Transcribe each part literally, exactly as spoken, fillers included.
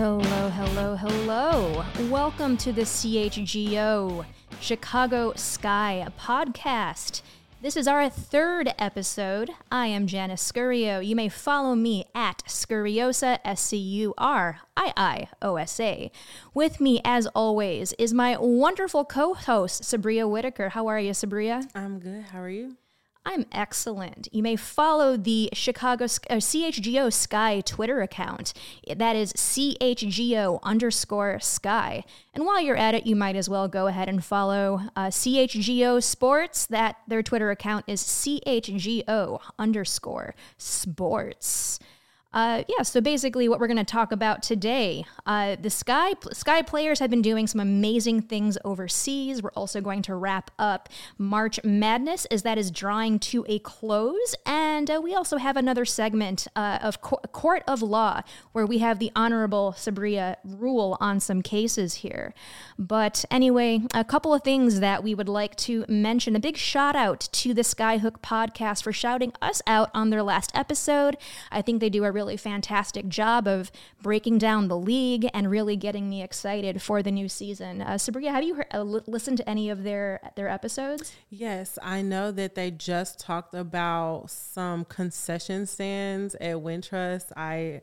Hello, hello, hello. Welcome to the C H G O Chicago Sky podcast. This is our third episode. I am Janice Scurio. You may follow me at Scuriosa, S C U R I I O S A. With me, as always, is my wonderful co-host, Sabria Whitaker. How are you, Sabria? I'm good. How are you? I'm excellent. You may follow the Chicago uh, C H G O Sky Twitter account. That is C H G O underscore Sky. And while you're at it, you might as well go ahead and follow uh, C H G O Sports. That their Twitter account is C H G O underscore Sports. Uh, yeah, so basically what we're going to talk about today, uh, the Sky Sky players have been doing some amazing things overseas. We're also going to wrap up March Madness as that is drawing to a close. And uh, we also have another segment uh, of Co- Court of Law where we have the Honorable Sabria rule on some cases here. But anyway, a couple of things that we would like to mention. A big shout out to the Skyhook podcast for shouting us out on their last episode. I think they do a really really fantastic job of breaking down the league and really getting me excited for the new season. Uh, Sabria, have you heard, uh, li- listened to any of their their episodes? Yes, I know that they just talked about some concession stands at Wintrust. I,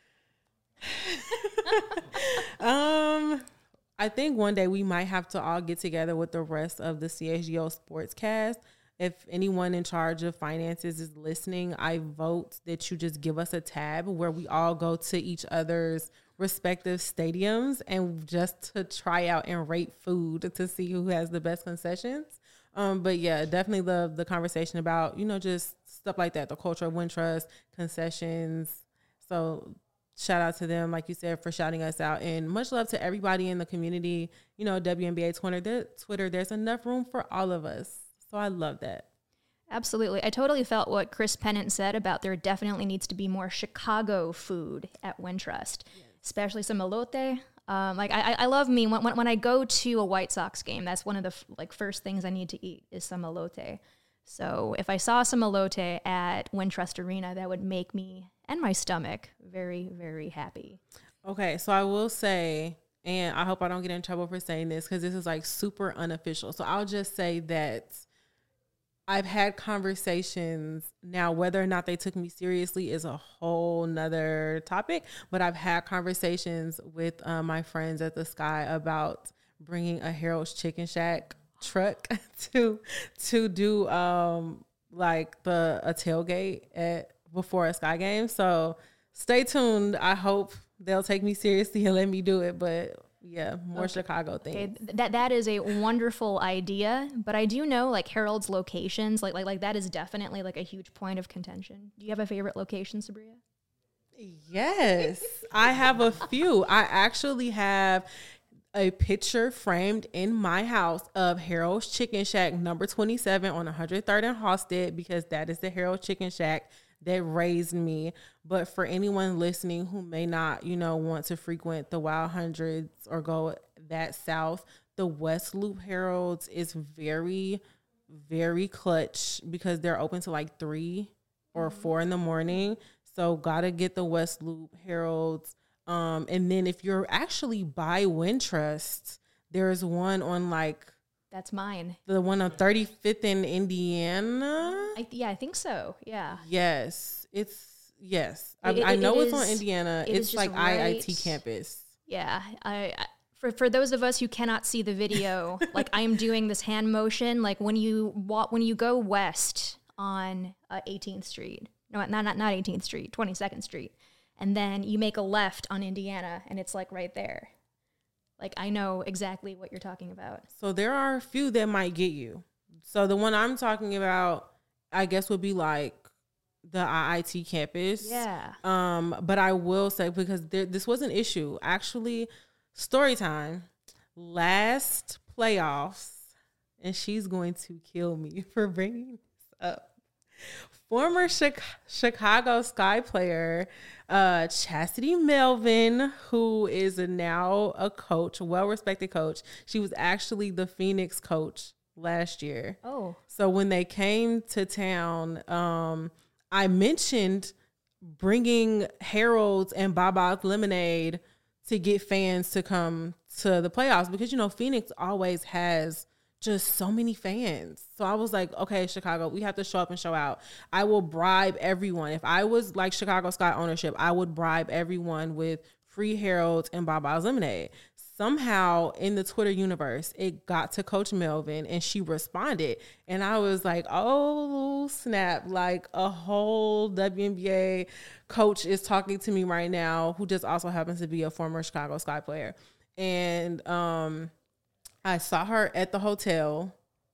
um, I think one day we might have to all get together with the rest of the C H G O Sportscast. If anyone in charge of finances is listening, I vote that you just give us a tab where we all go to each other's respective stadiums and just to try out and rate food to see who has the best concessions. Um, but yeah, definitely love the conversation about, you know, just stuff like that, the culture of Wintrust, concessions. So shout out to them, like you said, for shouting us out. And much love to everybody in the community. You know, W N B A Twitter, there, Twitter, there's enough room for all of us. So I love that. Absolutely. I totally felt what Chris Pennant said about there definitely needs to be more Chicago food at Wintrust, yes. Especially some elote. Um, like I, I love me when, when when I go to a White Sox game, that's one of the f- like first things I need to eat is some elote. So if I saw some elote at Wintrust Arena, that would make me and my stomach very, very happy. Okay, so I will say, and I hope I don't get in trouble for saying this because this is like super unofficial. So I'll just say that I've had conversations. Now, whether or not they took me seriously is a whole nother topic, but I've had conversations with uh, my friends at the Sky about bringing a Harold's Chicken Shack truck to to do um, like the a tailgate at before a Sky game. So stay tuned. I hope they'll take me seriously and let me do it, but yeah, more okay. Chicago things. Okay, that that is a wonderful idea, but I do know like Harold's locations, like like like that is definitely like a huge point of contention. Do you have a favorite location, Sabria? Yes, I have a few. I actually have a picture framed in my house of Harold's Chicken Shack number twenty-seven on one hundred third and Halsted because that is the Harold Chicken Shack that raised me. But for anyone listening who may not, you know, want to frequent the Wild Hundreds or go that south, the West Loop Harold's is very, very clutch because they're open to like three or four in the morning. So gotta get the West Loop Harold's. Um, and then if you're actually by Wintrust, there's one on like That's mine. The one on thirty-fifth in Indiana? I, yeah, I think so. Yeah. Yes. It's, yes. It, I, I it, know it it's is, on Indiana. It it's like right, I I T campus. Yeah. I, I for, for those of us who cannot see the video, like I am doing this hand motion, like when you walk, when you go west on uh, eighteenth Street, no, not, not, not eighteenth Street, twenty-second Street. And then you make a left on Indiana and it's like right there. Like, I know exactly what you're talking about. So there are a few that might get you. So the one I'm talking about, I guess, would be like the I I T campus. Yeah. Um, but I will say, because there, this was an issue. Actually, story time. Last playoffs, and she's going to kill me for bringing this up. Former Chicago Sky player uh, Chastity Melvin, who is a, now a coach, a well-respected coach. She was actually the Phoenix coach last year. Oh. So when they came to town, um, I mentioned bringing Harold's and Baba's Lemonade to get fans to come to the playoffs because, you know, Phoenix always has just so many fans. So I was like, okay, Chicago, we have to show up and show out. I will bribe everyone. If I was like Chicago Sky ownership, I would bribe everyone with free Harold's and Baba's lemonade. Somehow in the Twitter universe, it got to Coach Melvin and she responded. And I was like, oh, snap. Like a whole W N B A coach is talking to me right now who just also happens to be a former Chicago Sky player. And um, I saw her at the hotel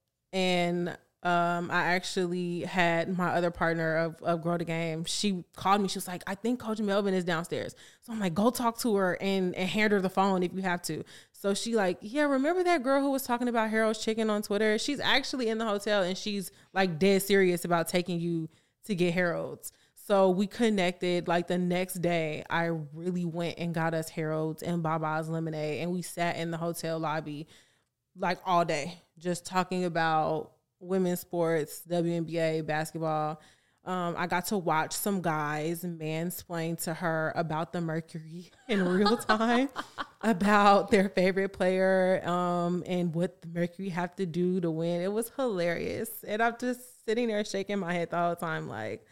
and Um, I actually had my other partner of, of Grow the Game. She called me. She was like, I think Coach Melvin is downstairs. So I'm like, go talk to her and, and hand her the phone if you have to. So she like, yeah, remember that girl who was talking about Harold's Chicken on Twitter? She's actually in the hotel and she's like dead serious about taking you to get Harold's. So we connected. Like the next day, I really went and got us Harold's and Baba's lemonade. And we sat in the hotel lobby like all day just talking about women's sports, W N B A, basketball. Um, I got to watch some guys mansplain to her about the Mercury in real time, about their favorite player um, and what the Mercury have to do to win. It was hilarious. And I'm just sitting there shaking my head the whole time like,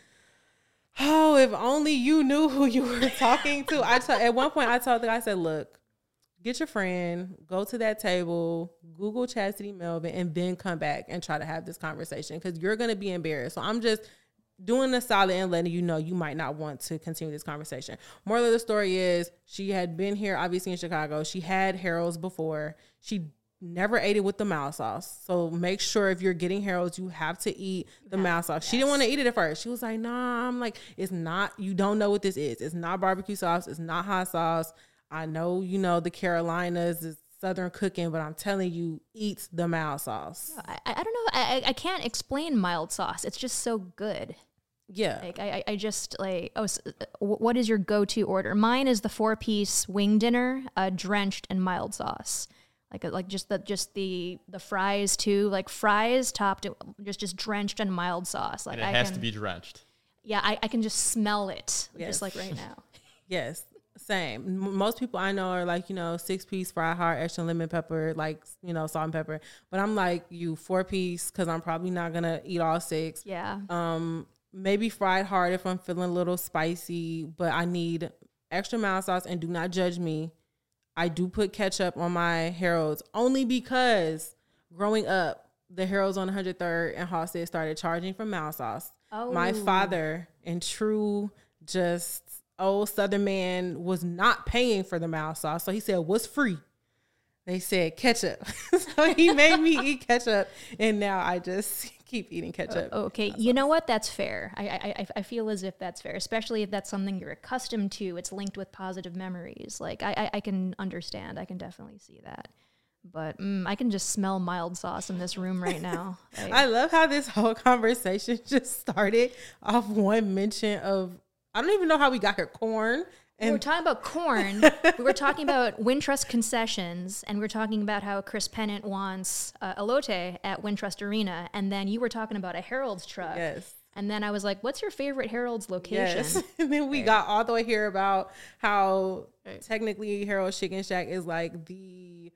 oh, if only you knew who you were talking to. I t- At one point, I told the guy, I said, look, get your friend, go to that table, Google Chastity Melvin, and then come back and try to have this conversation because you're going to be embarrassed. So I'm just doing a solid and letting you know you might not want to continue this conversation. Moral of the story is she had been here, obviously in Chicago. She had Harold's before. She never ate it with the mild sauce. So make sure if you're getting Harold's, you have to eat the yeah, mild sauce. Yes. She didn't want to eat it at first. She was like, nah, I'm like, it's not, you don't know what this is. It's not barbecue sauce. It's not hot sauce. I know, you know, the Carolinas is Southern cooking, but I'm telling you, eat the mild sauce. I, I don't know. I, I can't explain mild sauce. It's just so good. Yeah. Like I, I just like, oh, so what is your go-to order? Mine is the four-piece wing dinner, uh, drenched in mild sauce. Like, like just the, just the, the fries too, like fries topped, just, just drenched in mild sauce. Like and it I has can, to be drenched. Yeah. I, I can just smell it yes. just like right now. Yes. Same. Most people I know are like, you know, six piece fried hard, extra lemon pepper, like, you know, salt and pepper. But I'm like you four piece because I'm probably not going to eat all six. Yeah. Um, maybe fried hard if I'm feeling a little spicy, but I need extra mild sauce. And do not judge me. I do put ketchup on my Harold's only because growing up, the Harold's on one hundred third and Halsted started charging for mild sauce. Oh. My father, in true just old Southern man, was not paying for the mild sauce. So he said, what's free? They said ketchup. So he made me eat ketchup. And now I just keep eating ketchup. Oh, okay. You know what? That's fair. I, I I feel as if that's fair, especially if that's something you're accustomed to. It's linked with positive memories. Like I, I, I can understand. I can definitely see that. But mm, I can just smell mild sauce in this room right now. Like, I love how this whole conversation just started off one mention of, I don't even know how we got here, corn. And we were talking about corn. We were talking about Wintrust concessions, and we were talking about how Chris Pennant wants uh, elote at Wintrust Arena, and then you were talking about a Harold's truck. Yes. And then I was like, what's your favorite Harold's location? Yes. And then we right. got all the way here about how right. technically Harold's Chicken Shack is like the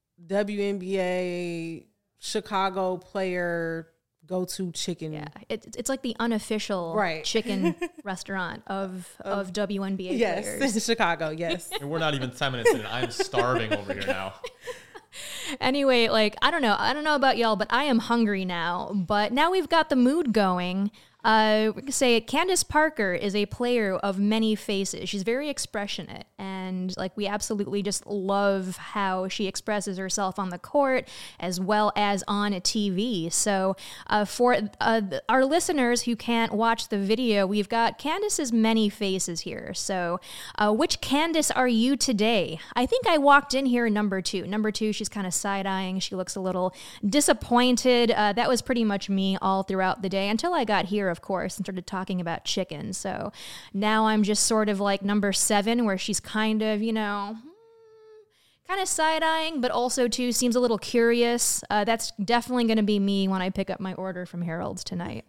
W N B A Chicago player go-to chicken. Yeah, it, it's like the unofficial right. chicken restaurant of, of of W N B A yes, players. Yes, in Chicago, yes. And we're not even ten minutes in. I'm starving over here now. Anyway, like, I don't know. I don't know about y'all, but I am hungry now. But now we've got the mood going. Uh, we can say Candace Parker is a player of many faces. She's very expressionate, and like we absolutely just love how she expresses herself on the court as well as on a T V. So uh, for uh, our listeners who can't watch the video, we've got Candace's many faces here. So uh, which Candace are you today? I think I walked in here number two. Number two, she's kind of side-eyeing. She looks a little disappointed. Uh, that was pretty much me all throughout the day until I got here, of course, and started talking about chicken. So now I'm just sort of like number seven, where she's kind of, you know, kind of side-eyeing, but also too seems a little curious. Uh, that's definitely going to be me when I pick up my order from Harold's tonight.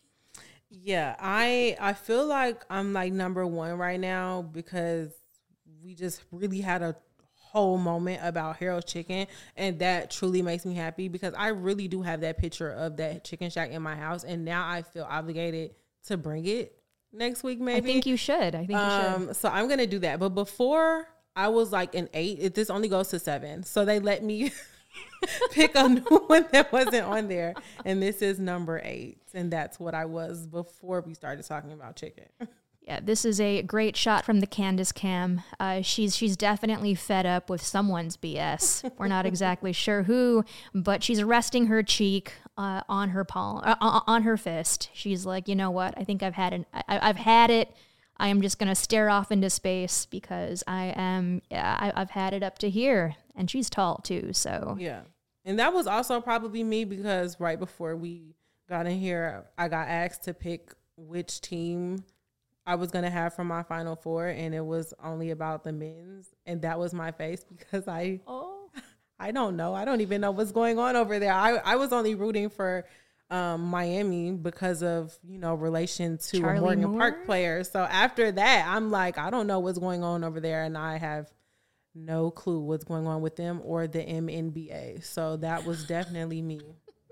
Yeah, I I feel like I'm like number one right now because we just really had a whole moment about Harold's Chicken, and that truly makes me happy because I really do have that picture of that chicken shack in my house, and now I feel obligated to bring it next week. Maybe I think you should. I think um, you should. So I'm gonna do that. But before I was like an eight. It, this only goes to seven, so they let me pick a new one that wasn't on there, and this is number eight, and that's what I was before we started talking about chicken. Yeah, this is a great shot from the Candace cam. Uh, she's she's definitely fed up with someone's B S. We're not exactly sure who, but she's resting her cheek uh, on her palm, uh, on her fist. She's like, you know what? I think I've had an, I, I've had it. I am just gonna stare off into space because I am. Yeah, I, I've had it up to here, and she's tall too. So yeah, and that was also probably me because right before we got in here, I got asked to pick which team I was going to have for my Final Four, and it was only about the men's, and that was my face because I oh. I don't know. I don't even know what's going on over there. I, I was only rooting for um, Miami because of, you know, relation to Charlie a Morgan Moore? Park player. So after that, I'm like, I don't know what's going on over there, and I have no clue what's going on with them or the M N B A. So that was definitely me.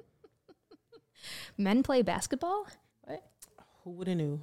Men play basketball? What? Who would have knew?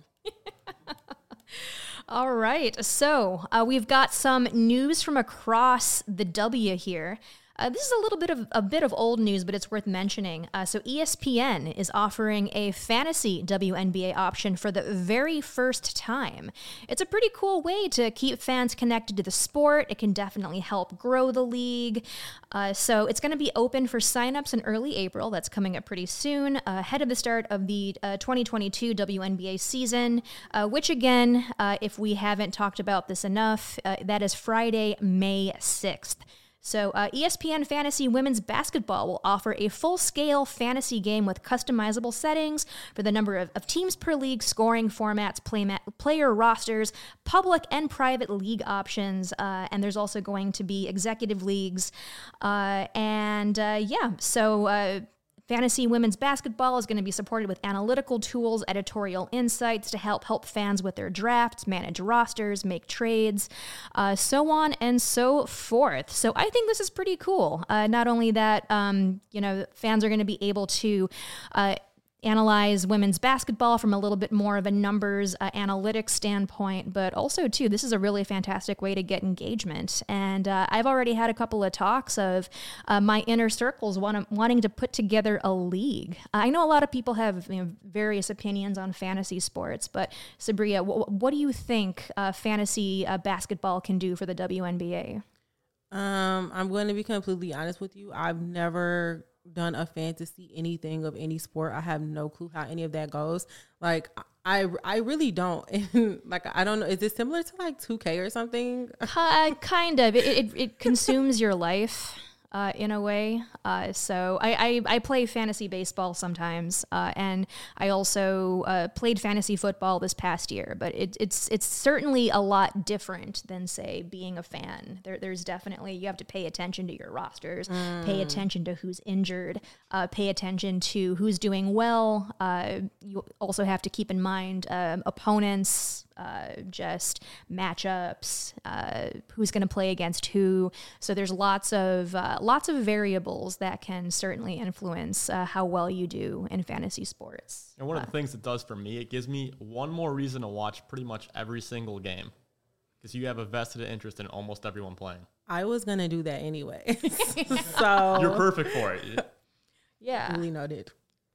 All right, so uh, we've got some news from across the W here. Uh, this is a little bit of a bit of old news, but it's worth mentioning. Uh, so E S P N is offering a fantasy W N B A option for the very first time. It's a pretty cool way to keep fans connected to the sport. It can definitely help grow the league. Uh, so it's going to be open for signups in early April. That's coming up pretty soon, uh, ahead of the start of the uh, twenty twenty-two W N B A season, uh, which again, uh, if we haven't talked about this enough, uh, that is Friday, May sixth. So uh, E S P N Fantasy Women's Basketball will offer a full-scale fantasy game with customizable settings for the number of, of teams per league, scoring formats, play ma- player rosters, public and private league options, uh, and there's also going to be executive leagues. Uh, and uh, yeah, so... Uh, Fantasy Women's Basketball is going to be supported with analytical tools, editorial insights to help help fans with their drafts, manage rosters, make trades, uh, so on and so forth. So I think this is pretty cool. Uh, not only that, um, you know, fans are going to be able to uh, analyze women's basketball from a little bit more of a numbers uh, analytics standpoint, but also too, this is a really fantastic way to get engagement. And uh, I've already had a couple of talks of uh, my inner circles want- wanting to put together a league. I know a lot of people have, you know, various opinions on fantasy sports, but Sabria, w- what do you think uh, fantasy uh, basketball can do for the W N B A? Um, I'm going to be completely honest with you. I've never done a fantasy anything of any sport. I have no clue how any of that goes. Like I I really don't. And like I don't know. Is it similar to like two K or something? Uh, kind of. It, it it consumes your life uh, in a way. Uh, so I, I I play fantasy baseball sometimes, uh, and I also uh, played fantasy football this past year. But it, it's it's certainly a lot different than, say, being a fan. There there's definitely, you have to pay attention to your rosters, mm. pay attention to who's injured, uh, pay attention to who's doing well. Uh, you also have to keep in mind um, opponents. Uh, just matchups, uh, who's going to play against who. So there's lots of uh, lots of variables that can certainly influence uh, how well you do in fantasy sports. And one uh, of the things it does for me, it gives me one more reason to watch pretty much every single game because you have a vested interest in almost everyone playing. I was going to do that anyway. So you're perfect for it. Yeah. Really noted.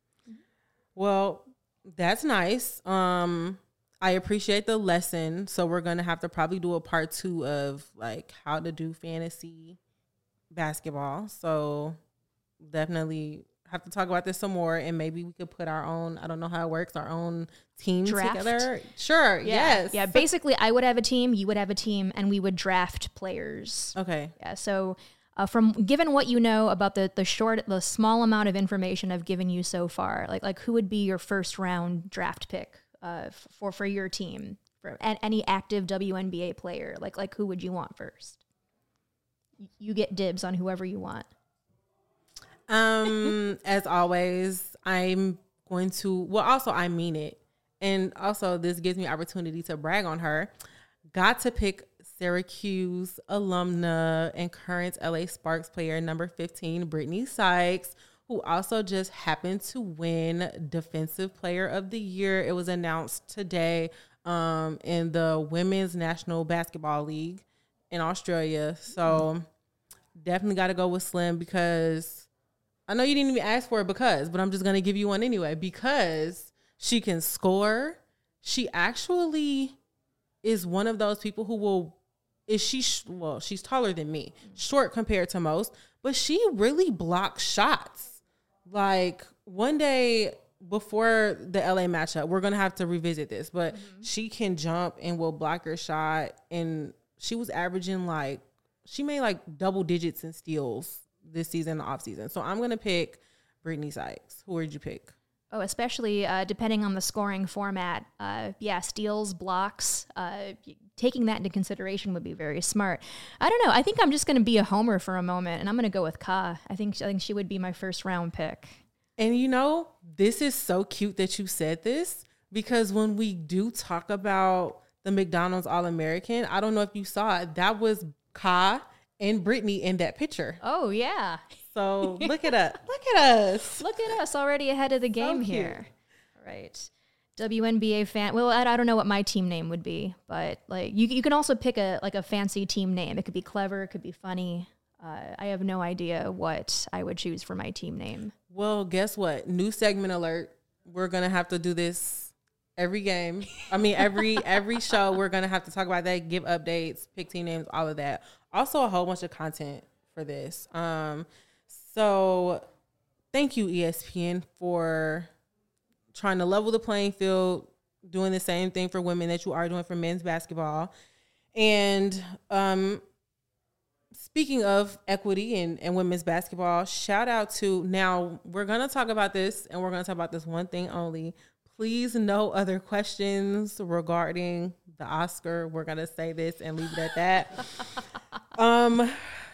Well, that's nice. Um, I appreciate the lesson. So we're going to have to probably do a part two of like how to do fantasy basketball. So definitely have to talk about this some more, and maybe we could put our own, I don't know how it works, our own team draft together. Sure. Yeah. Yes. Yeah. Basically I would have a team, you would have a team, and we would draft players. Okay. Yeah. So Uh, from given what you know about the the short, the small amount of information I've given you so far, like like who would be your first round draft pick uh, for for your team, for any active W N B A player? Like like who would you want first? You get dibs on whoever you want. Um, as always, I'm going to. Well, also I mean it, and also this gives me opportunity to brag on her. Got to pick Syracuse alumna and current L A Sparks player number fifteen, Brittany Sykes, who also just happened to win Defensive Player of the Year. It was announced today um, in the Women's National Basketball League in Australia. So definitely got to go with Slim because I know you didn't even ask for it because, but I'm just going to give you one anyway because she can score. She actually is one of those people who will, is she, well, she's taller than me, short compared to most, but she really blocks shots. Like one day before the L A matchup, we're going to have to revisit this, but mm-hmm. she can jump and will block her shot. And she was averaging like, she made like double digits in steals this season, the off season. So I'm going to pick Brittany Sykes. Who would you pick? Oh, especially uh, depending on the scoring format. Uh, yeah, steals, blocks, uh, taking that into consideration would be very smart. I don't know. I think I'm just going to be a homer for a moment, and I'm going to go with Ka. I think I think she would be my first round pick. And you know, this is so cute that you said this because when we do talk about the McDonald's All-American, I don't know if you saw it, that was Ka and Brittany in that picture. Oh, yeah. So look at us. Look at us. Look at us already ahead of the game so here. All right. W N B A fan. Well, I, I don't know what my team name would be, but like you, you can also pick a like a fancy team name. It could be clever. It could be funny. Uh, I have no idea what I would choose for my team name. Well, guess what? New segment alert. We're going to have to do this every game. I mean, every every show, we're going to have to talk about that, give updates, pick team names, all of that. Also, a whole bunch of content for this. Um, so thank you, E S P N, for trying to level the playing field, doing the same thing for women that you are doing for men's basketball. And um, speaking of equity and, and women's basketball, shout out to, now we're going to talk about this and we're going to talk about this one thing only. Please, no other questions regarding the Oscar. We're going to say this and leave it at that. um,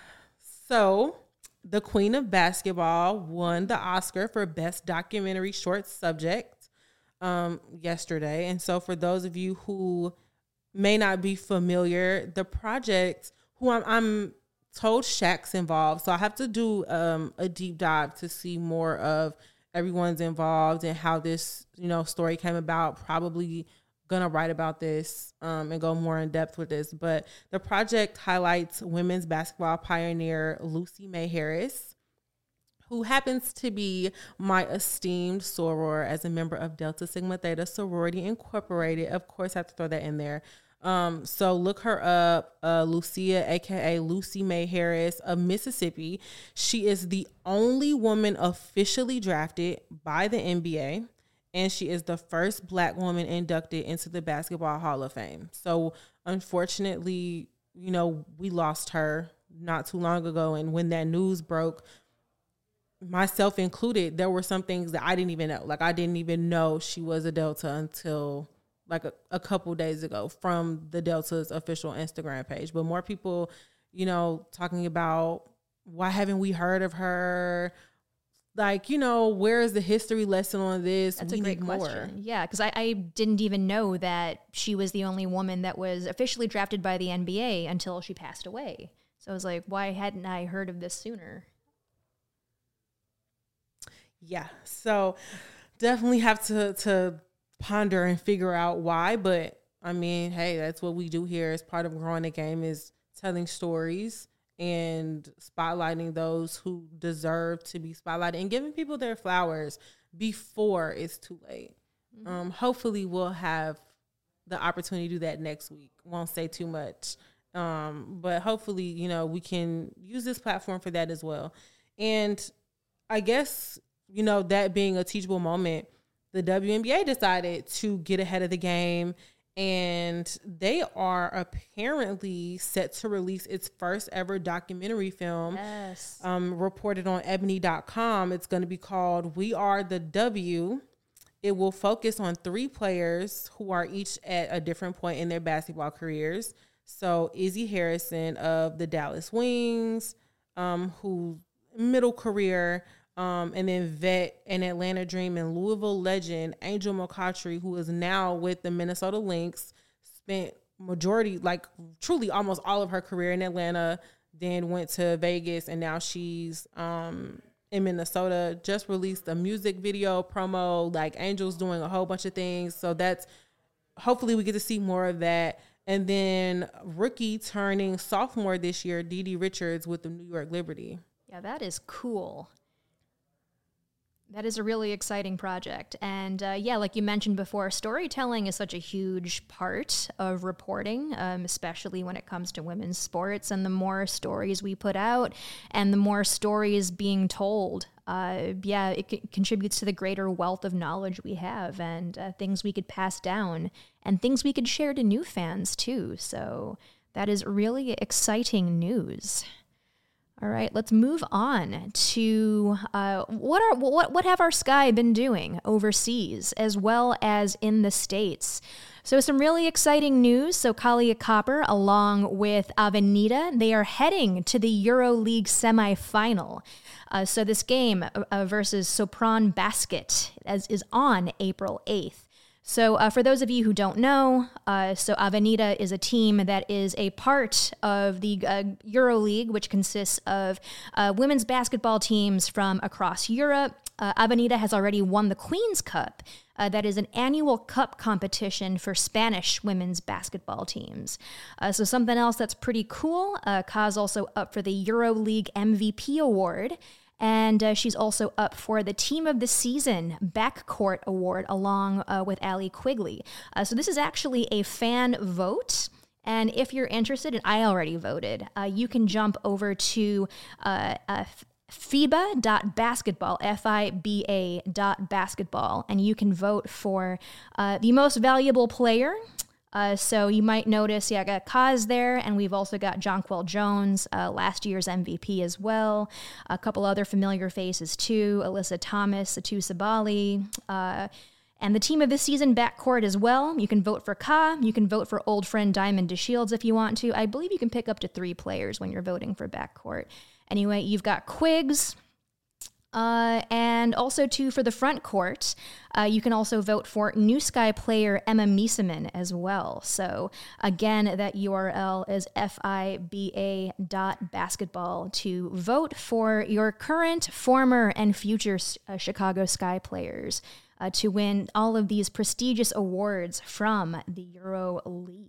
so the Queen of Basketball won the Oscar for Best Documentary Short Subject um, yesterday. And so for those of you who may not be familiar, the project, who I'm, I'm told Shaq's involved, so I have to do um, a deep dive to see more of everyone's involved and how this, you know, story came about. Probably gonna write about this um, and go more in depth with this. But the project highlights women's basketball pioneer Lucy May Harris, who happens to be my esteemed soror as a member of Delta Sigma Theta Sorority Incorporated. Of course, I have to throw that in there. Um, so look her up, uh, Lucia, A K A Lucy May Harris of Mississippi. She is the only woman officially drafted by the N B A, and she is the first Black woman inducted into the Basketball Hall of Fame. So unfortunately, you know, we lost her not too long ago. And when that news broke, myself included, there were some things that I didn't even know. Like I didn't even know she was a Delta until like a, a couple days ago from the Delta's official Instagram page. But more people, you know, talking about why haven't we heard of her? Like, you know, where is the history lesson on this? That's we a great need question. More. Yeah, because I, I didn't even know that she was the only woman that was officially drafted by the N B A until she passed away. So I was like, why hadn't I heard of this sooner? Yeah, so definitely have to to ponder and figure out why. But I mean, hey, that's what we do here as part of growing the game, is telling stories and spotlighting those who deserve to be spotlighted and giving people their flowers before it's too late. Mm-hmm. Um, hopefully we'll have the opportunity to do that next week. Won't say too much. Um, but hopefully, you know, we can use this platform for that as well. And I guess, you know, that being a teachable moment, the W N B A decided to get ahead of the game, and they are apparently set to release its first ever documentary film. Yes. Um, reported on ebony dot com. It's going to be called We Are the W. It will focus on three players who are each at a different point in their basketball careers. So Izzy Harrison of the Dallas Wings, um, who middle career, Um, and then vet and Atlanta Dream and Louisville legend Angel McCoughtry, who is now with the Minnesota Lynx, spent majority, like truly almost all of her career in Atlanta, then went to Vegas, and now she's um, in Minnesota. Just released a music video promo, like Angel's doing a whole bunch of things. So that's, hopefully we get to see more of that. And then rookie turning sophomore this year, DiDi Richards with the New York Liberty. Yeah, that is cool. That is a really exciting project. And uh, yeah, like you mentioned before, storytelling is such a huge part of reporting, um, especially when it comes to women's sports. And the more stories we put out and the more stories being told, uh, yeah, it c- contributes to the greater wealth of knowledge we have and uh, things we could pass down and things we could share to new fans too. So that is really exciting news. All right, let's move on to uh, what are what what have our Sky been doing overseas as well as in the States. So some really exciting news. So Kahleah Copper, along with Avenida, they are heading to the EuroLeague semifinal. Uh, so this game uh, versus Sopron Basket as, is on April eighth. So uh, for those of you who don't know, uh, so Avenida is a team that is a part of the uh, EuroLeague, which consists of uh, women's basketball teams from across Europe. Uh, Avenida has already won the Queen's Cup. Uh, that is an annual cup competition for Spanish women's basketball teams. Uh, so something else that's pretty cool, uh, Ka's also up for the EuroLeague M V P award. And uh, she's also up for the Team of the Season Backcourt Award along uh, with Allie Quigley. Uh, so this is actually a fan vote. And if you're interested, and I already voted, uh, you can jump over to uh, uh, FIBA dot basketball, F I B A dot basketball, and you can vote for uh, the most valuable player. Uh, so you might notice, yeah, I got Kaz there, and we've also got Jonquel Jones, uh, last year's M V P as well. A couple other familiar faces too, Alyssa Thomas, Atu Sabali, uh, and the Team of the Season backcourt as well. You can vote for Ka. You can vote for old friend Diamond DeShields if you want to. I believe you can pick up to three players when you're voting for backcourt. Anyway, you've got Quiggs. Uh, and also, too, for the front court, uh, you can also vote for New Sky player Emma Miesemann as well. So, again, that U R L is F I B A dot basketball to vote for your current, former, and future uh, Chicago Sky players uh, to win all of these prestigious awards from the EuroLeague.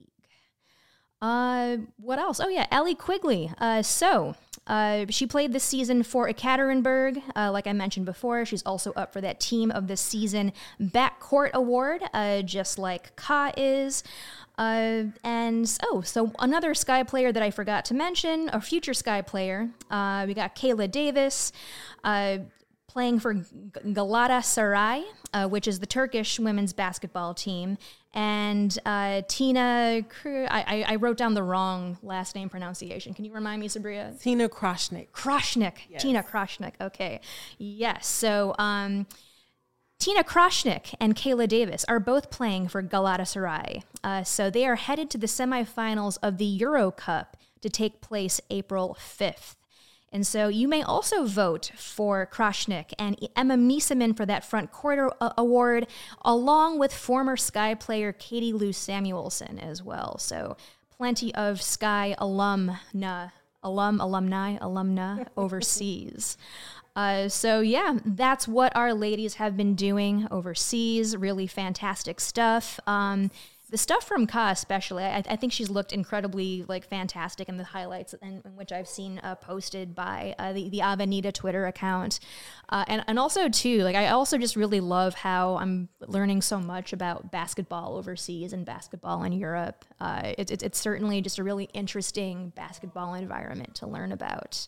Uh, what else? Oh, yeah, Allie Quigley. Uh, so... Uh, she played this season for Ekaterinburg. Uh, like I mentioned before, she's also up for that Team of the Season Backcourt Award, uh, just like Ka is. Uh, and, oh, so another Sky player that I forgot to mention, a future Sky player, uh, we got Kayla Davis, uh, playing for G- Galatasaray, uh, which is the Turkish women's basketball team. And uh, Tina, I, I wrote down the wrong last name pronunciation. Can you remind me, Sabria? Tina Kroshnik. Kroshnik. Yes. Tina Kroshnik. Okay. Yes. So um, Tina Kroshnik and Kayla Davis are both playing for Galatasaray. Uh, so they are headed to the semifinals of the Euro Cup to take place April fifth. And so you may also vote for Kroshnik and Emma Miesemann for that front court uh, award, along with former Sky player Katie Lou Samuelson as well. So plenty of Sky alumna, alum, alumni, alumna overseas. Uh, so yeah, that's what our ladies have been doing overseas. Really fantastic stuff. Um, The stuff from Ka especially, I, I think she's looked incredibly like fantastic in the highlights in, in which I've seen uh, posted by uh, the, the Avenida Twitter account. Uh, and, and also, too, like I also just really love how I'm learning so much about basketball overseas and basketball in Europe. Uh, it, it, it's certainly just a really interesting basketball environment to learn about.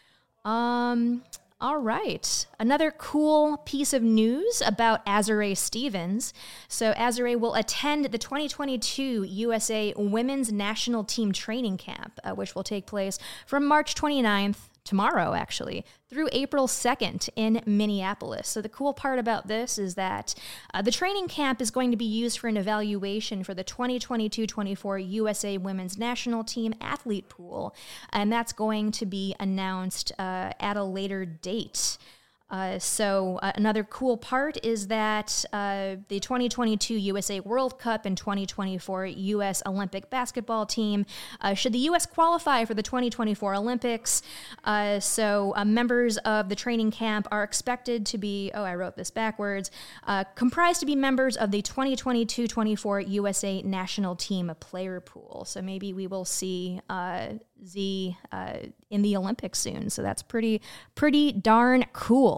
Um... All right. Another cool piece of news about Azurá Stevens. So Azurá will attend the twenty twenty-two U S A Women's National Team Training Camp, uh, which will take place from March twenty-ninth, tomorrow actually, through April second in Minneapolis. So the cool part about this is that uh, the training camp is going to be used for an evaluation for the twenty twenty-two twenty-four U S A Women's National Team Athlete Pool, and that's going to be announced uh, at a later date. Uh, so uh, another cool part is that uh, the twenty twenty-two U S A World Cup and twenty twenty-four U S Olympic basketball team, uh, should the U S qualify for the twenty twenty-four Olympics, uh, so uh, members of the training camp are expected to be, oh, I wrote this backwards, uh, comprised to be members of the twenty twenty-two twenty-four U S A national team player pool. So maybe we will see uh, Z uh, in the Olympics soon. So that's pretty, pretty darn cool.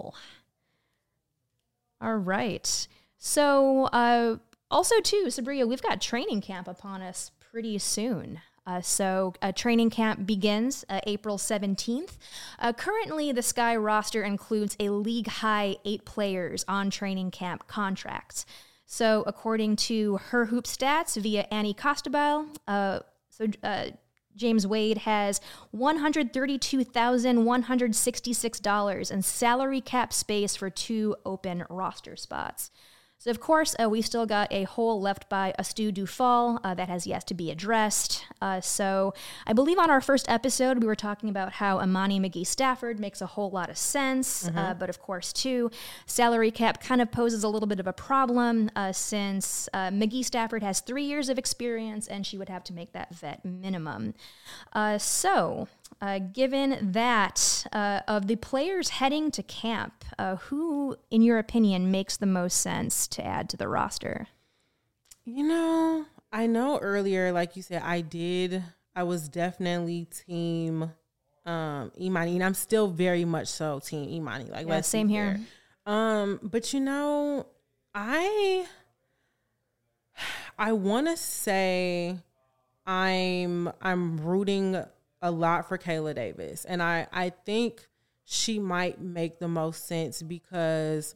All right. So uh, also, too, Sabria, we've got training camp upon us pretty soon. Uh, so uh, training camp begins uh, April seventeenth. Uh, currently, the Sky roster includes a league-high eight players on training camp contracts. So according to Her Hoop Stats via Annie Costabile, uh, so uh, James Wade has one hundred thirty-two thousand one hundred sixty-six dollars in salary cap space for two open roster spots. So, of course, uh, we still got a hole left by Astu Dufal uh, that has yet to be addressed. Uh, so I believe on our first episode, we were talking about how Imani McGee-Stafford makes a whole lot of sense. Mm-hmm. Uh, but, of course, too, salary cap kind of poses a little bit of a problem uh, since uh, McGee-Stafford has three years of experience and she would have to make that vet minimum. Uh, so... Uh, given that, uh, of the players heading to camp, uh, who, in your opinion, makes the most sense to add to the roster? You know, I know earlier, like you said, I did, I was definitely team um, Imani, and I'm still very much so team Imani. Like, yeah, same here. Um, but you know, I, I want to say I'm, I'm rooting a lot for Kayla Davis. And I, I think she might make the most sense because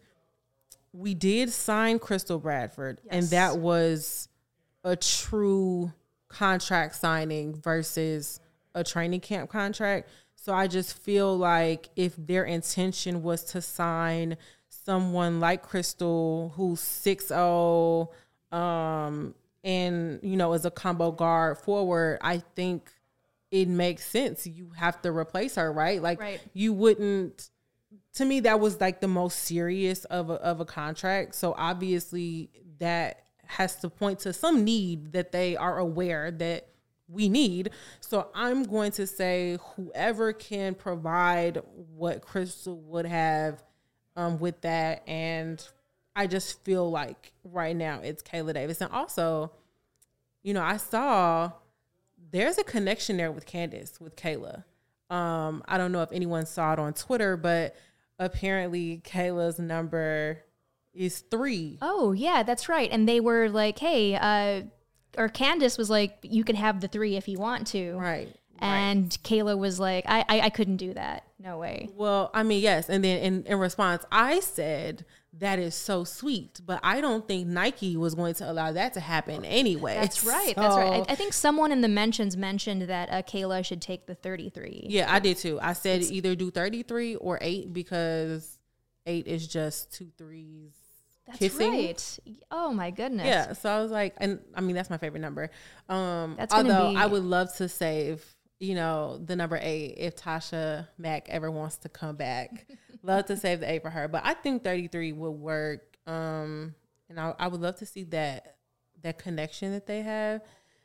we did sign Crystal Bradford, yes. and that was a true contract signing versus a training camp contract. So I just feel like if their intention was to sign someone like Crystal, who's six oh, um, and, you know, is a combo guard forward, I think it makes sense. You have to replace her, right? Like, right. you wouldn't, to me, that was like the most serious of a, of a contract. So obviously that has to point to some need that they are aware that we need. So I'm going to say whoever can provide what Crystal would have um, with that. And I just feel like right now it's Kayla Davis. And also, you know, I saw there's a connection there with Candace, with Kayla. Um, I don't know if anyone saw it on Twitter, but apparently Kayla's number is three. Oh, yeah, that's right. And they were like, hey, uh, or Candace was like, you can have the three if you want to. Right. And right. Kayla was like, I, I I couldn't do that. No way. Well, I mean, yes. And then in, in response, I said, that is so sweet. But I don't think Nike was going to allow that to happen anyway. That's right. So, that's right. I, I think someone in the mentions mentioned that uh, Kayla should take the thirty-three. Yeah, I did too. I said it's, either do thirty-three or eight because eight is just two threes. That's kissing. Right. Oh my goodness. Yeah. So I was like, and I mean, that's my favorite number. Um, that's although be... I would love to save, you know, the number eight if Tasha Mack ever wants to come back. Love to save the eight for her, but I think thirty-three would work. Um, and I, I would love to see that that connection that they have.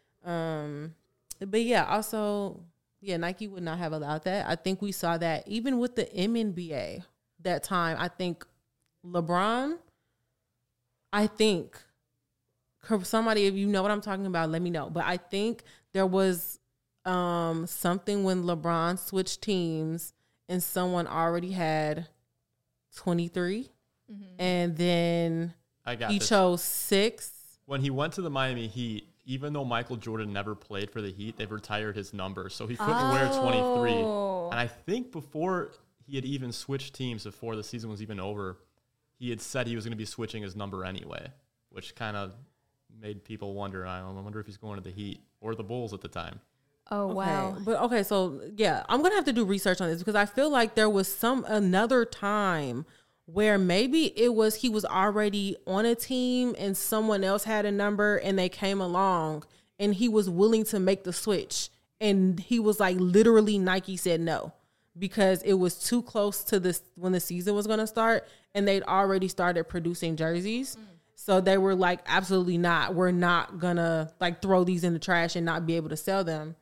Um, but yeah, also, yeah, Nike would not have allowed that. I think we saw that even with the M N B A that time. I think LeBron. I think somebody, if you know what I'm talking about, let me know. But I think there was um, something when LeBron switched teams and someone already had twenty-three, mm-hmm. and then I got he this. chose six. When he went to the Miami Heat, even though Michael Jordan never played for the Heat, they've retired his number, so he couldn't oh. wear twenty-three. And I think before he had even switched teams, before the season was even over, he had said he was going to be switching his number anyway, which kind of made people wonder, I wonder if he's going to the Heat or the Bulls at the time. Oh, wow. Okay. But okay, so yeah, I'm going to have to do research on this because I feel like there was some another time where maybe it was he was already on a team and someone else had a number and they came along and he was willing to make the switch. And he was like, literally, Nike said no. because it was too close to this when the season was going to start, and they'd already started producing jerseys. Mm. So they were like, absolutely not. We're not going to like throw these in the trash and not be able to sell them.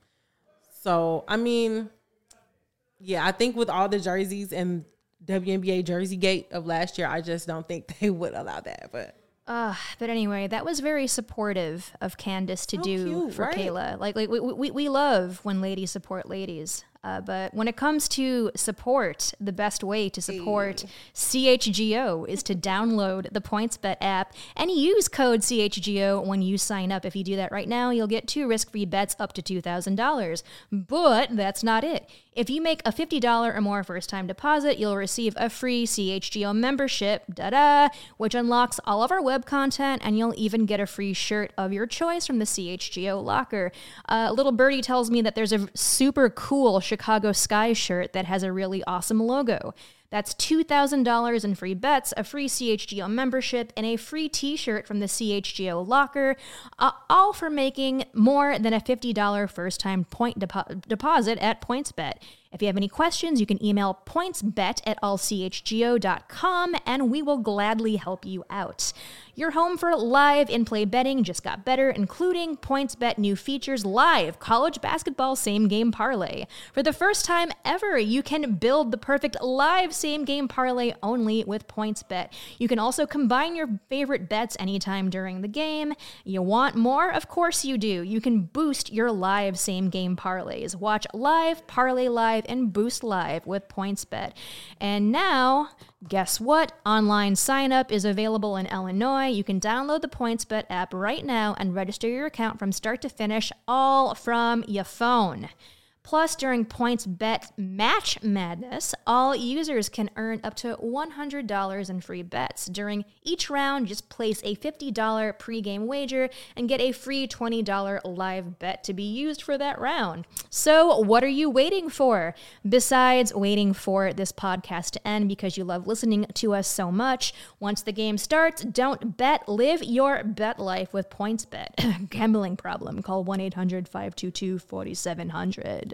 So, I mean, yeah, I think with all the jerseys and W N B A Jersey Gate of last year, I just don't think they would allow that. But Uh, but anyway, that was very supportive of Candace to so do cute, for right? Kayla. Like, like we, we, we love when ladies support ladies. Uh, but when it comes to support, the best way to support hey. C H G O is to download the PointsBet app and use code C H G O when you sign up. If you do that right now, you'll get two risk-free bets up to two thousand dollars. But that's not it. If you make a fifty dollars or more first-time deposit, you'll receive a free C H G O membership, da-da, which unlocks all of our web content, and you'll even get a free shirt of your choice from the C H G O locker. Uh, little birdie tells me that there's a super cool Chicago Sky shirt that has a really awesome logo. That's two thousand dollars in free bets, a free C H G O membership, and a free t-shirt from the C H G O locker, uh, all for making more than a fifty dollars first-time point depo- deposit at PointsBet. If you have any questions, you can email pointsbet at all c h g o dot com, and we will gladly help you out. Your home for live in-play betting just got better, including PointsBet new features, live college basketball same-game parlay. For the first time ever, you can build the perfect live same-game parlay only with PointsBet. You can also combine your favorite bets anytime during the game. You want more? Of course you do. You can boost your live same-game parlays. Watch live, parlay live, and boost live with PointsBet. And now, guess what? Online sign-up is available in Illinois. You can download the PointsBet app right now and register your account from start to finish, all from your phone. Plus, during PointsBet Match Madness, all users can earn up to one hundred dollars in free bets. During each round, just place a fifty dollars pregame wager and get a free twenty dollars live bet to be used for that round. So, what are you waiting for? Besides waiting for this podcast to end because you love listening to us so much, once the game starts, don't bet. Live your bet life with PointsBet. Gambling problem? Call one eight hundred five two two four seven zero zero.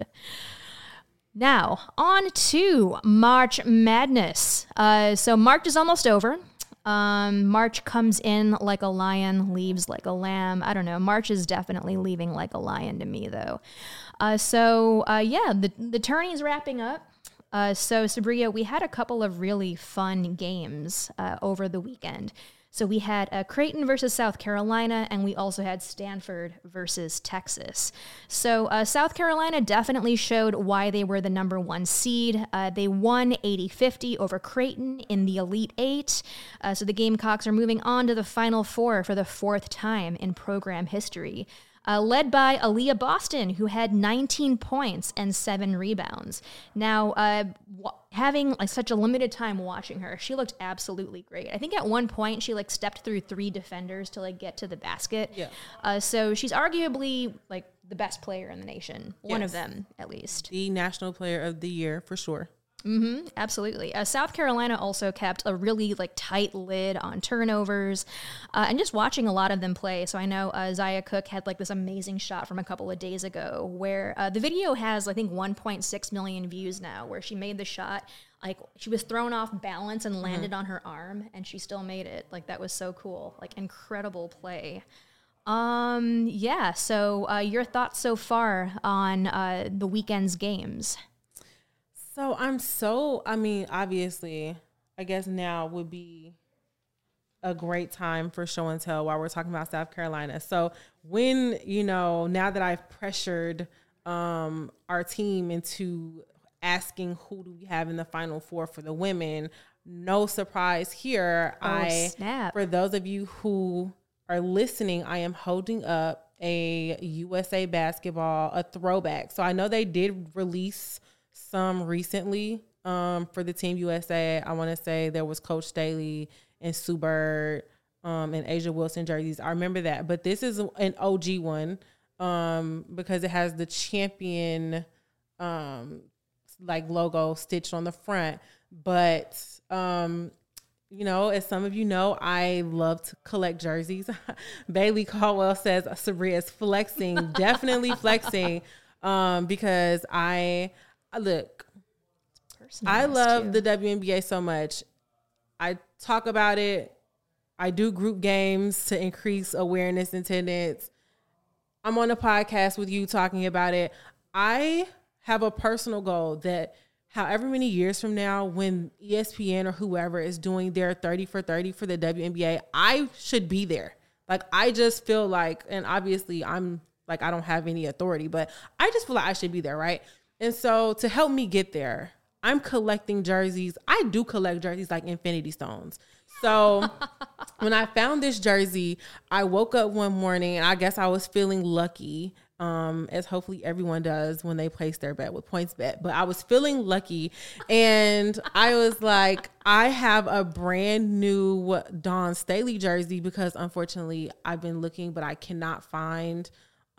Now, on to March Madness. Uh, so March is almost over. Um, March comes in like a lion, leaves like a lamb. I don't know. March is definitely leaving like a lion to me, though. Uh, so, uh, yeah, the, the tourney's wrapping up. Uh, so, Sabria, we had a couple of really fun games uh, over the weekend. So we had uh, Creighton versus South Carolina, and we also had Stanford versus Texas. So uh, South Carolina definitely showed why they were the number one seed. Uh, they won eighty fifty over Creighton in the Elite Eight. Uh, so the Gamecocks are moving on to the Final Four for the fourth time in program history. Uh, led by Aaliyah Boston, who had nineteen points and seven rebounds. Now, uh, w- having like such a limited time watching her, she looked absolutely great. I think at one point she like stepped through three defenders to like get to the basket. Yeah. Uh, so she's arguably like the best player in the nation, one yes. of them at least. The National Player of the Year for sure. Mm-hmm, absolutely. Uh, South Carolina also kept a really like tight lid on turnovers, uh, and just watching a lot of them play. So I know uh, Zaya Cook had like this amazing shot from a couple of days ago where uh, the video has I think one point six million views now, where she made the shot. Like she was thrown off balance and landed mm-hmm. on her arm, and she still made it. Like that was so cool. Like incredible play. Um, yeah. So uh, your thoughts so far on uh, the weekend's games? So I'm so, I mean, obviously, I guess now would be a great time for show and tell while we're talking about South Carolina. So when, you know, now that I've pressured um, our team into asking who do we have in the Final Four for the women, no surprise here. Oh, I, snap. For those of you who are listening, I am holding up a U S A Basketball, a throwback. So I know they did release some recently um, for the Team U S A. I want to say there was Coach Staley and Sue Bird um, and Asia Wilson jerseys. I remember that. But this is an O G one um, because it has the champion um, like logo stitched on the front. But, um, you know, as some of you know, I love to collect jerseys. Bailey Caldwell says Sabria is flexing, definitely flexing um, because I – Look, I love too. the W N B A so much. I talk about it. I do group games to increase awareness and attendance. I'm on a podcast with you talking about it. I have a personal goal that however many years from now, when E S P N or whoever is doing their thirty for thirty for the W N B A, I should be there. Like, I just feel like, and obviously I'm like, I don't have any authority, but I just feel like I should be there, right? And so to help me get there, I'm collecting jerseys. I do collect jerseys like Infinity Stones. So when I found this jersey, I woke up one morning and I guess I was feeling lucky, um, as hopefully everyone does when they place their bet with PointsBet. But I was feeling lucky and I was like, I have a brand new Dawn Staley jersey because unfortunately I've been looking, but I cannot find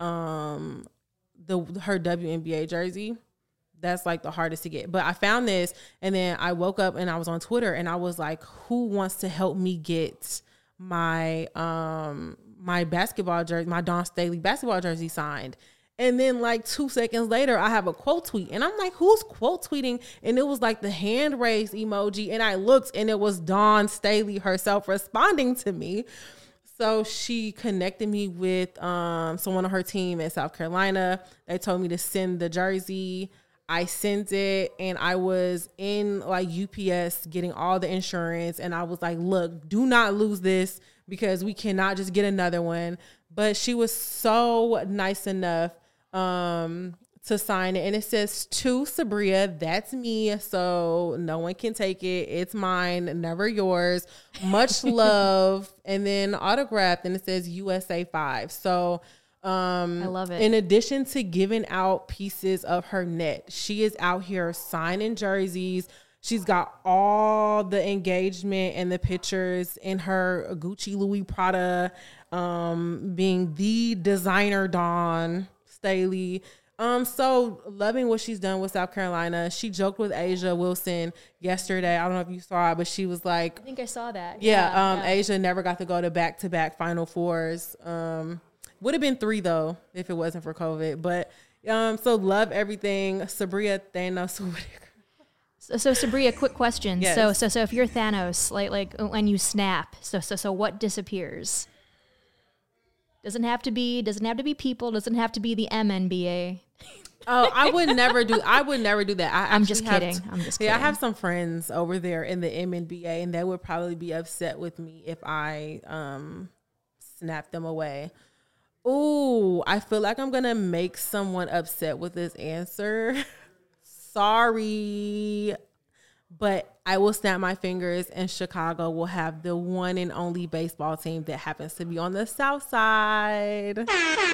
um, the her W N B A jersey. That's like the hardest to get. But I found this and then I woke up and I was on Twitter and I was like, who wants to help me get my um my basketball jersey, my Dawn Staley basketball jersey signed? And then like two seconds later, I have a quote tweet and I'm like, who's quote tweeting? And it was like the hand raised emoji. And I looked and it was Dawn Staley herself responding to me. So she connected me with um someone on her team in South Carolina. They told me to send the jersey. I sent it and I was in like U P S getting all the insurance. And I was like, look, do not lose this because we cannot just get another one. But she was so nice enough um, to sign it. And it says to Sabria, that's me. So no one can take it. It's mine, never yours. Much love. And then autographed and it says U S A five. So Um, I love it. In addition to giving out pieces of her net, she is out here signing jerseys. She's got all the engagement and the pictures in her Gucci, Louis, Prada, um, being the designer Dawn Staley. Um, so loving what she's done with South Carolina. She joked with Asia Wilson yesterday. I don't know if you saw it, but she was like, I think I saw that. Yeah, yeah um, yeah. Asia never got to go to back-to-back Final Fours. Um, Would have been three, though, if it wasn't for COVID. But um, so love everything. Sabria Thanos. So, so Sabria, quick question. Yes. So, so, so if you're Thanos, like, like when you snap, so, so, so what disappears? Doesn't have to be, doesn't have to be people. Doesn't have to be the M N B A. Oh, I would never do. I would never do that. I I'm just kidding. Have, I'm just yeah, kidding. I have some friends over there in the M N B A, and they would probably be upset with me if I um snap them away. Ooh, I feel like I'm going to make someone upset with this answer. Sorry. But I will snap my fingers and Chicago will have the one and only baseball team that happens to be on the South Side.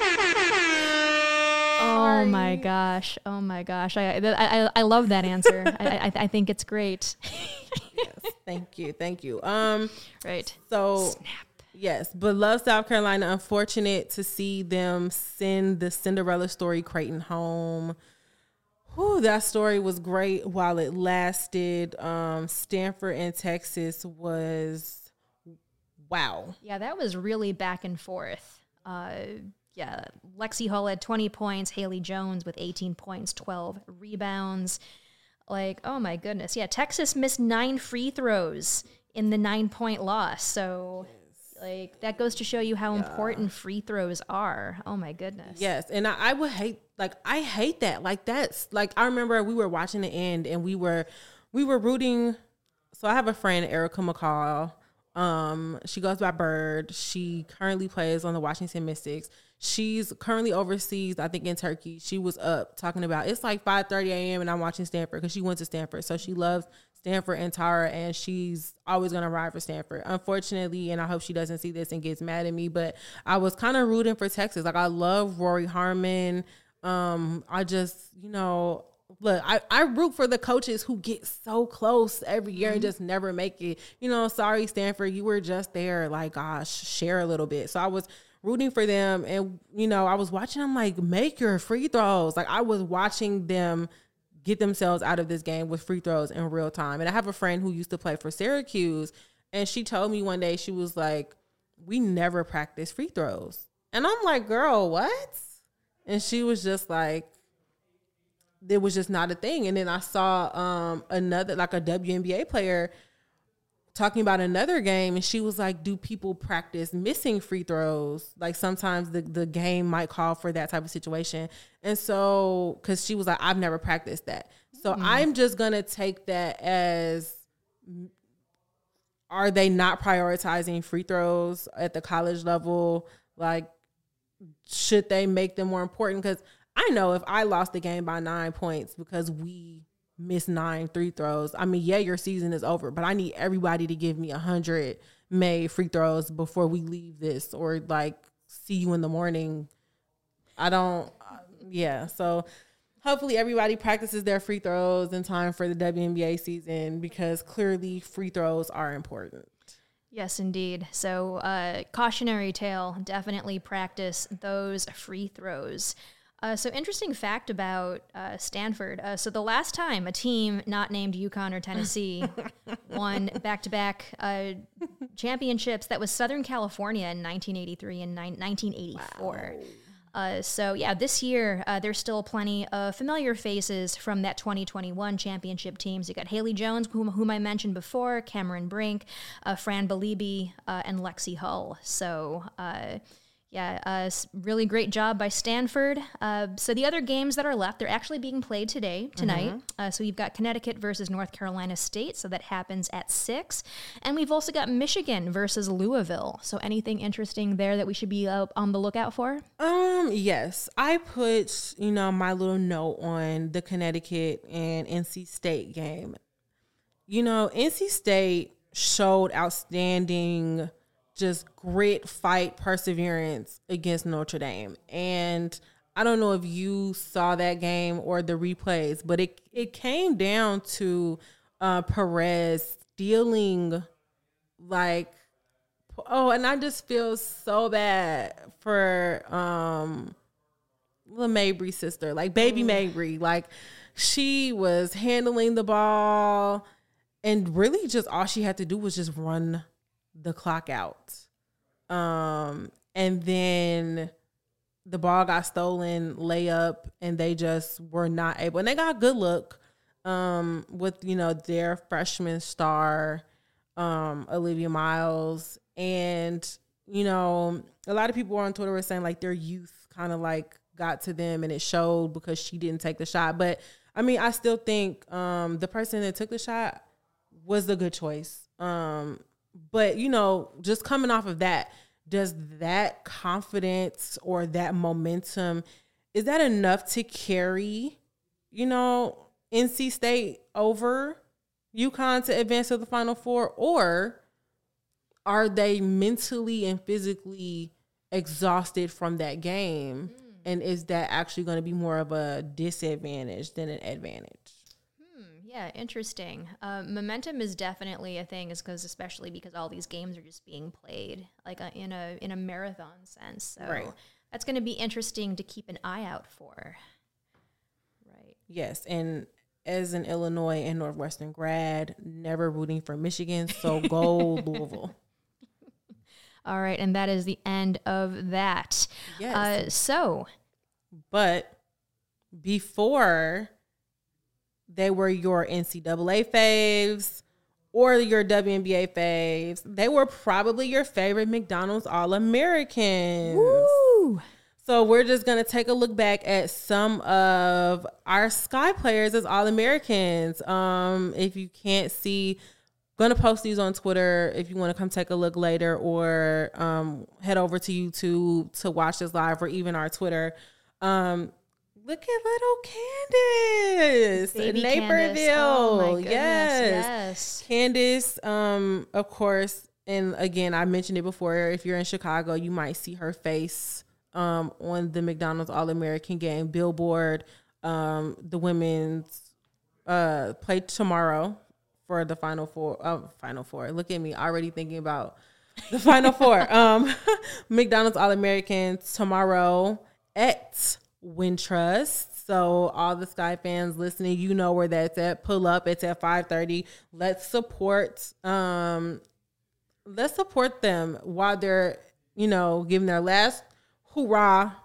Oh my gosh. Oh my gosh. I I, I love that answer. I, I I think it's great. Yes, thank you. Thank you. Um, right. So Snap. Yes, but love South Carolina. Unfortunate to see them send the Cinderella story Creighton home. Whew, that story was great while it lasted. Um, Stanford and Texas was wow. Yeah, that was really back and forth. Uh, yeah, Lexi Hull had twenty points. Haley Jones with eighteen points, twelve rebounds. Like, oh my goodness. Yeah, Texas missed nine free throws in the nine-point loss. So... Like, that goes to show you how yeah. important free throws are. Oh, my goodness. Yes, and I, I would hate, like, I hate that. Like, that's, like, I remember we were watching the end, and we were, we were rooting. So I have a friend, Erica McCall. Um, she goes by Bird. She currently plays on the Washington Mystics. She's currently overseas, I think in Turkey. She was up talking about, it's like five thirty a.m. and I'm watching Stanford because she went to Stanford. So she loves Stanford and Tara, and she's always going to ride for Stanford. Unfortunately, and I hope she doesn't see this and gets mad at me, but I was kind of rooting for Texas. Like, I love Rory Harmon. Um, I just, you know, look, I, I root for the coaches who get so close every year mm-hmm. and just never make it. You know, sorry, Stanford, you were just there. Like, gosh, share a little bit. So I was rooting for them. And, you know, I was watching them like, make your free throws. Like, I was watching them get themselves out of this game with free throws in real time. And I have a friend who used to play for Syracuse, and she told me one day, she was like, we never practice free throws. And I'm like, girl, what? And she was just like, it was just not a thing. And then I saw um, another, like a W N B A player talking about another game, and she was like, do people practice missing free throws? Like sometimes the, the game might call for that type of situation. And so, because she was like, I've never practiced that. So mm-hmm. I'm just going to take that as, are they not prioritizing free throws at the college level? Like, should they make them more important? Because I know if I lost the game by nine points because we missed nine free throws, I mean, yeah, your season is over, but I need everybody to give me a hundred made free throws before we leave this, or like see you in the morning. I don't, yeah. So hopefully everybody practices their free throws in time for the W N B A season, because clearly free throws are important. Yes, indeed. So uh, cautionary tale, definitely practice those free throws. Uh, so interesting fact about uh, Stanford. Uh, so the last time a team not named UConn or Tennessee won back-to-back uh, championships, that was Southern California in nineteen eighty-three and ni- nineteen eighty-four. Wow. Uh, so yeah, this year uh, there's still plenty of familiar faces from that twenty twenty-one championship teams. You got Haley Jones, whom, whom I mentioned before, Cameron Brink, uh, Fran Belibi, uh, and Lexi Hull. So uh, yeah, uh, really great job by Stanford. Uh, so the other games that are left, they're actually being played today, tonight. Mm-hmm. Uh, so we've got Connecticut versus North Carolina State. So that happens at six. And we've also got Michigan versus Louisville. So anything interesting there that we should be uh, on the lookout for? Um, yes. I put, you know, my little note on the Connecticut and N C State game. You know, N C State showed outstanding just grit, fight, perseverance against Notre Dame. And I don't know if you saw that game or the replays, but it it came down to uh, Perez stealing, like, oh, and I just feel so bad for um, the Mabry sister, like baby Mabry. Like, she was handling the ball, and really just all she had to do was just run the clock out. Um, and then the ball got stolen, layup, and they just were not able. And they got good look um, with, you know, their freshman star, um, Olivia Miles. And, you know, a lot of people on Twitter were saying, like, their youth kind of, like, got to them, and it showed because she didn't take the shot. But, I mean, I still think um, the person that took the shot was the good choice. Um But, you know, just coming off of that, does that confidence or that momentum, is that enough to carry, you know, N C State over UConn to advance to the Final Four? Or are they mentally and physically exhausted from that game? Mm. And is that actually going to be more of a disadvantage than an advantage? Yeah, interesting. Uh, momentum is definitely a thing, is because especially because all these games are just being played like a, in a in a marathon sense. So right. That's going to be interesting to keep an eye out for. Right. Yes, and as an Illinois and Northwestern grad, never rooting for Michigan, so go Louisville. All right, and that is the end of that. Yes. Uh, so, but before they were your N C double A faves or your W N B A faves, they were probably your favorite McDonald's All-Americans. Woo! So we're just going to take a look back at some of our Sky players as All-Americans. Um, if you can't see, going to post these on Twitter if you want to come take a look later, or um, head over to YouTube to watch this live, or even our Twitter. Um, Look at little Candace, Baby Naperville. Oh my goodness, yes. yes. Candace, um, of course, and again, I mentioned it before. If you're in Chicago, you might see her face um, on the McDonald's All-American game billboard. Um, the women's uh, play tomorrow for the Final Four. Uh, Final Four. Look at me, already thinking about the Final Four. Um, McDonald's All-American tomorrow at Wintrust. So all the Sky fans listening, you know where that's at. Pull up. It's at five thirty. Let's support um let's support them while they're, you know, giving their last hoorah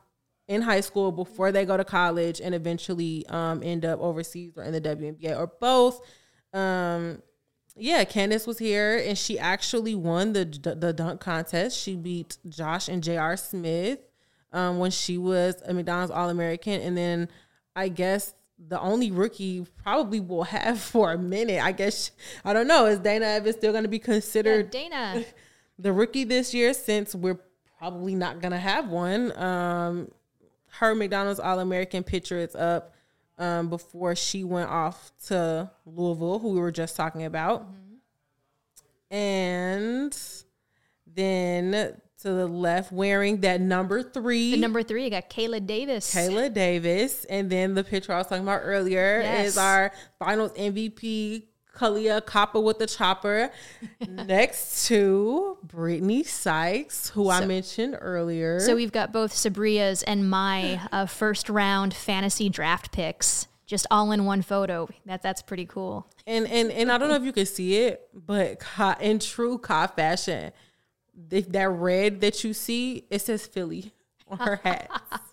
in high school before they go to college and eventually um, end up overseas or in the W N B A or both. Um, yeah, Candace was here and she actually won the the dunk contest. She beat Josh and J R. Smith um, when she was a McDonald's All-American. And then I guess the only rookie probably will have for a minute. I guess, I don't know, is Dana Evans still going to be considered yeah, Dana the rookie this year since we're probably not going to have one? Um, her McDonald's All-American picture is up um, before she went off to Louisville, who we were just talking about. Mm-hmm. And then to the left, wearing that number three. The number three, you got Kayla Davis. Kayla Davis. And then the picture I was talking about earlier yes. is our finals M V P, Kalia Copper with the chopper, next to Brittany Sykes, who so, I mentioned earlier. So we've got both Sabria's and my uh, first round fantasy draft picks, just all in one photo. That That's pretty cool. And and and I don't know if you can see it, but in true Ka fashion, that red that you see, it says Philly on her hat.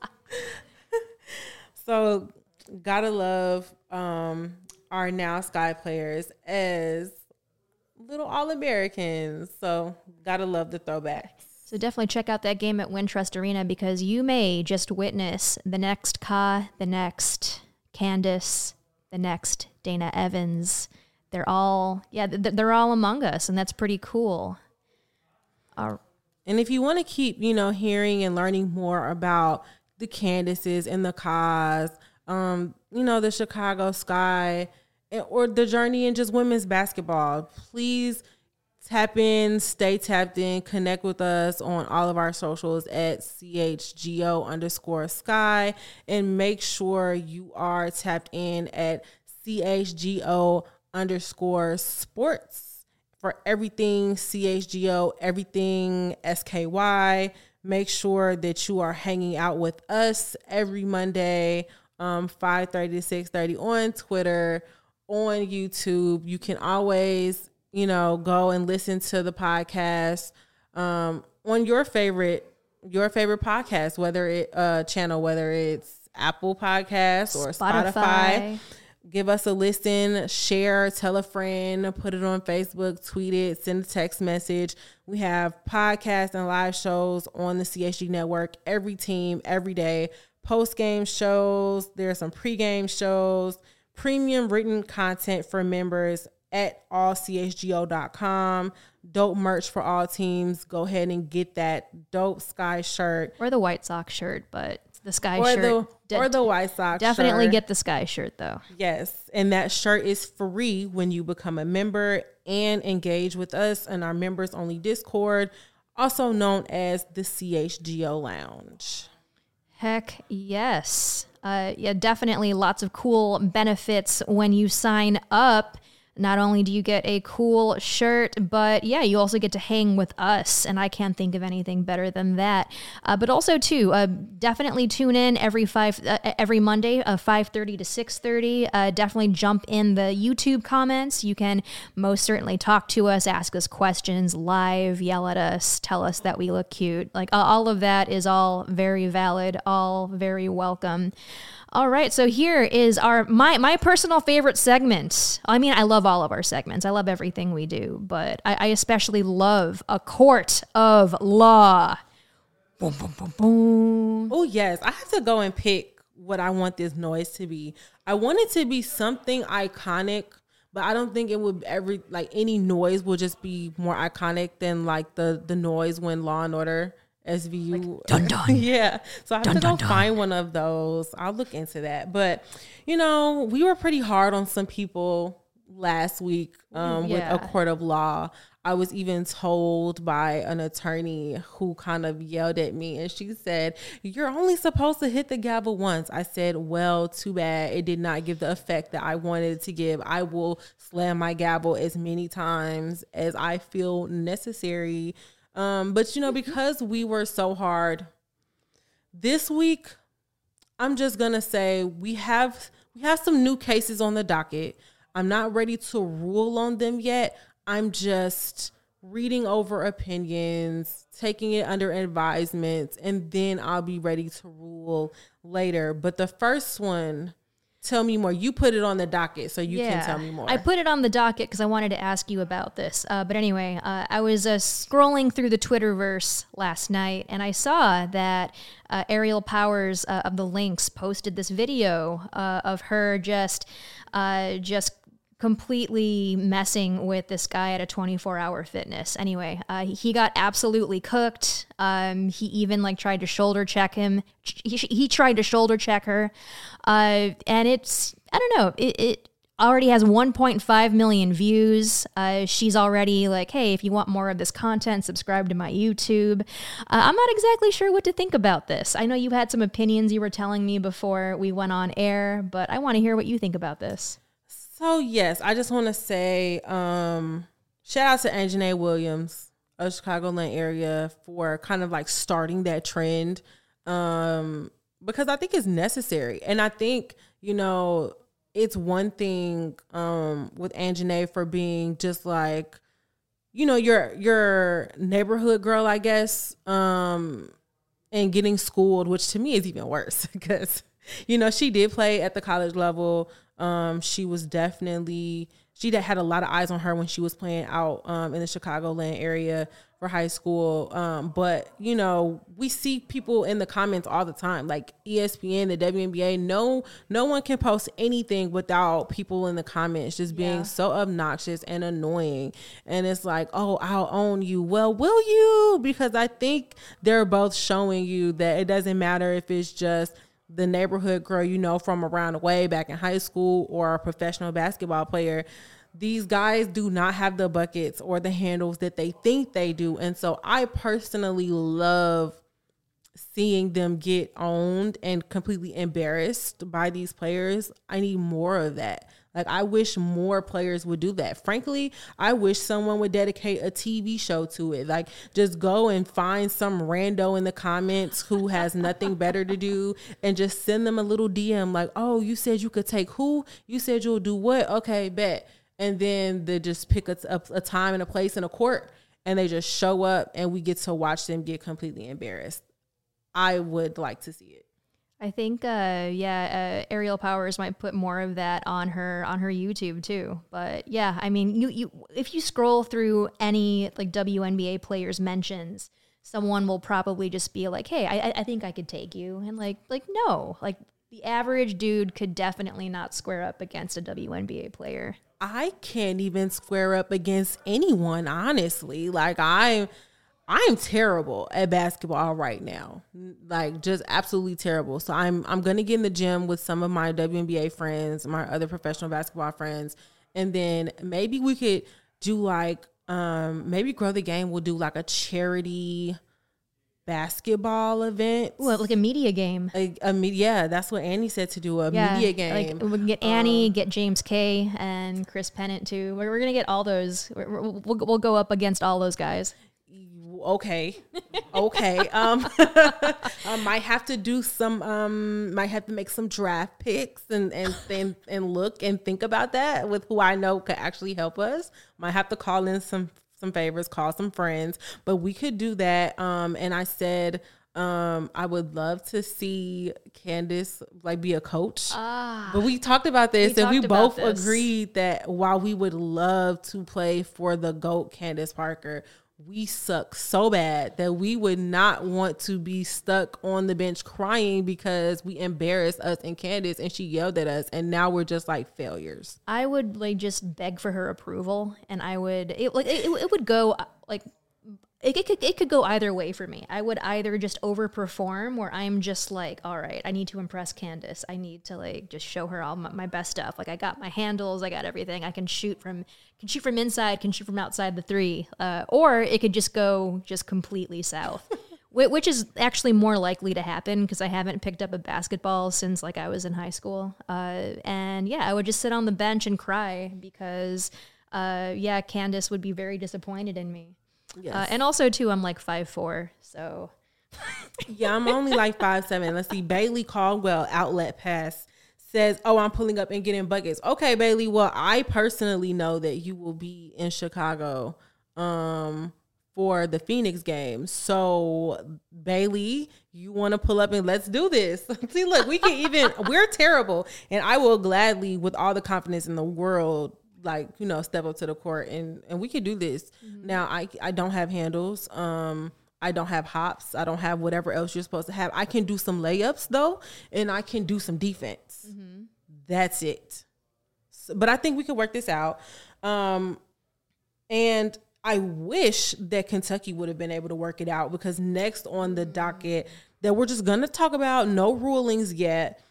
So gotta love um, our now Sky players as little All-Americans. So gotta love the throwbacks. So definitely check out that game at Wintrust Arena because you may just witness the next Ka, the next Candace, the next Dana Evans. They're all, yeah, they're all among us, and that's pretty cool. Uh, and if you want to keep, you know, hearing and learning more about the Candaces and the Kas, um, you know, the Chicago Sky, and, or the journey in just women's basketball, please tap in, stay tapped in, connect with us on all of our socials at C H G O underscore Sky, and make sure you are tapped in at C H G O underscore Sports. For everything C H G O, everything S K Y, make sure that you are hanging out with us every Monday, um, five thirty to six thirty on Twitter, on YouTube. You can always, you know, go and listen to the podcast um, on your favorite your favorite podcast, whether it uh, channel, whether it's Apple Podcasts or Spotify. Spotify. Give us a listen, share, tell a friend, put it on Facebook, tweet it, send a text message. We have podcasts and live shows on the C H G network, every team, every day. Post-game shows, there are some pre-game shows, premium written content for members at all c h g o dot com. Dope merch for all teams. Go ahead and get that dope Sky shirt. Or the White Sox shirt, but the Sky or shirt. The, de- or the White Sox Definitely shirt. get the Sky shirt, though. Yes, and that shirt is free when you become a member and engage with us in our members-only Discord, also known as the C H G O Lounge. Heck yes. Uh, yeah, definitely lots of cool benefits when you sign up. Not only do you get a cool shirt, but yeah, you also get to hang with us, and I can't think of anything better than that. Uh, but also, too, uh, definitely tune in every five uh, every Monday, uh, five thirty to six thirty. Uh, definitely jump in the YouTube comments. You can most certainly talk to us, ask us questions live, yell at us, tell us that we look cute. Like uh, all of that is all very valid, all very welcome. All right, so here is our my my personal favorite segment. I mean, I love all of our segments. I love everything we do, but I, I especially love A Court of Law. Boom, boom, boom, boom. Oh, yes. I have to go and pick what I want this noise to be. I want it to be something iconic, but I don't think it would ever, like, any noise will just be more iconic than, like, the, the noise when Law and Order S V U. Like, dun dun. Yeah. So I have dun, to go dun, dun. find one of those. I'll look into that. But, you know, we were pretty hard on some people last week um, yeah. with A Court of Law. I was even told by an attorney who kind of yelled at me, and she said, "You're only supposed to hit the gavel once." I said, well, too bad. It did not give the effect that I wanted it to give. I will slam my gavel as many times as I feel necessary. Um, but, you know, because we were so hard this week, I'm just going to say we have we have some new cases on the docket. I'm not ready to rule on them yet. I'm just reading over opinions, taking it under advisement, and then I'll be ready to rule later. But the first one, tell me more. You put it on the docket, so you yeah, can tell me more. I put it on the docket because I wanted to ask you about this. Uh, but anyway, uh, I was uh, scrolling through the Twitterverse last night, and I saw that uh, Ariel Powers uh, of the Lynx posted this video uh, of her just, uh, just completely messing with this guy at a twenty-four hour fitness. Anyway, uh, he got absolutely cooked. Um, he even like tried to shoulder check him. He, he tried to shoulder check her. Uh, and it's, I don't know, it, it already has one point five million views. Uh, she's already like, hey, if you want more of this content, subscribe to my YouTube. Uh, I'm not exactly sure what to think about this. I know you had some opinions you were telling me before we went on air, but I want to hear what you think about this. So, yes, I just want to say um, shout out to Anjanae Williams of Chicagoland area for kind of like starting that trend um, because I think it's necessary. And I think, you know, it's one thing um, with Anjanae for being just like, you know, your your neighborhood girl, I guess, um, and getting schooled, which to me is even worse because, you know, she did play at the college level. Um, she was definitely, she had a lot of eyes on her when she was playing out um, in the Chicagoland area for high school. Um, but, you know, we see people in the comments all the time, like E S P N, the W N B A. No, no one can post anything without people in the comments just being yeah. so obnoxious and annoying. And it's like, oh, I'll own you. Well, will you? Because I think they're both showing you that it doesn't matter if it's just the neighborhood girl, you know, from around the way back in high school or a professional basketball player. These guys do not have the buckets or the handles that they think they do. And so I personally love seeing them get owned and completely embarrassed by these players. I need more of that. Like, I wish more players would do that. Frankly, I wish someone would dedicate a T V show to it. Like, just go and find some rando in the comments who has nothing better to do and just send them a little D M like, oh, you said you could take who? You said you'll do what? Okay, bet. And then they just pick a, a, a time and a place in a court and they just show up and we get to watch them get completely embarrassed. I would like to see it. I think, uh, yeah, uh, Ariel Powers might put more of that on her on her YouTube too. But yeah, I mean, you you if you scroll through any like W N B A players' mentions, someone will probably just be like, "Hey, I I think I could take you," and like like no, like the average dude could definitely not square up against a W N B A player. I can't even square up against anyone, honestly. Like I. I am terrible at basketball right now, like just absolutely terrible. So I'm I'm gonna get in the gym with some of my W N B A friends, my other professional basketball friends, and then maybe we could do like um, maybe Grow the Game will do like a charity basketball event. What, like a media game? A, a yeah, that's what Annie said to do a yeah, media game. Like we can get Annie, um, get James K, and Chris Pennant too. We're, we're gonna get all those. We're, we'll we'll go up against all those guys. Okay. Okay. Um, I might have to do some, um, might have to make some draft picks and, and, and, and look and think about that with who I know could actually help us. Might have to call in some, some favors, call some friends, but we could do that. Um, and I said, um, I would love to see Candace like be a coach, ah, but we talked about this we and we both this. agreed that while we would love to play for the GOAT Candace Parker, we suck so bad that we would not want to be stuck on the bench crying because we embarrassed us and Candace and she yelled at us and now we're just like failures. I would like just beg for her approval and I would it like it, it would go like It, it could it could go either way for me. I would either just overperform where I'm just like, all right, I need to impress Candace. I need to like just show her all my, my best stuff. Like I got my handles, I got everything. I can shoot from can shoot from inside, can shoot from outside the three. Uh, or it could just go just completely south, which is actually more likely to happen because I haven't picked up a basketball since like I was in high school. Uh, and yeah, I would just sit on the bench and cry because uh, yeah, Candace would be very disappointed in me. Yes. Uh, and also, too, I'm like five foot four, so. Yeah, I'm only like five foot seven. Let's see. Bailey Caldwell, Outlet Pass, says, oh, I'm pulling up and getting buckets. Okay, Bailey. Well, I personally know that you will be in Chicago um, for the Phoenix game. So Bailey, you want to pull up and let's do this. See, look, we can even, we're terrible. And I will gladly, with all the confidence in the world, like, you know, step up to the court and, and we can do this. Mm-hmm. Now, I, I don't have handles. Um, I don't have hops. I don't have whatever else you're supposed to have. I can do some layups though, and I can do some defense. Mm-hmm. That's it. So, but I think we can work this out. Um, and I wish that Kentucky would have been able to work it out, because next on the docket that we're just going to talk about, no rulings yet,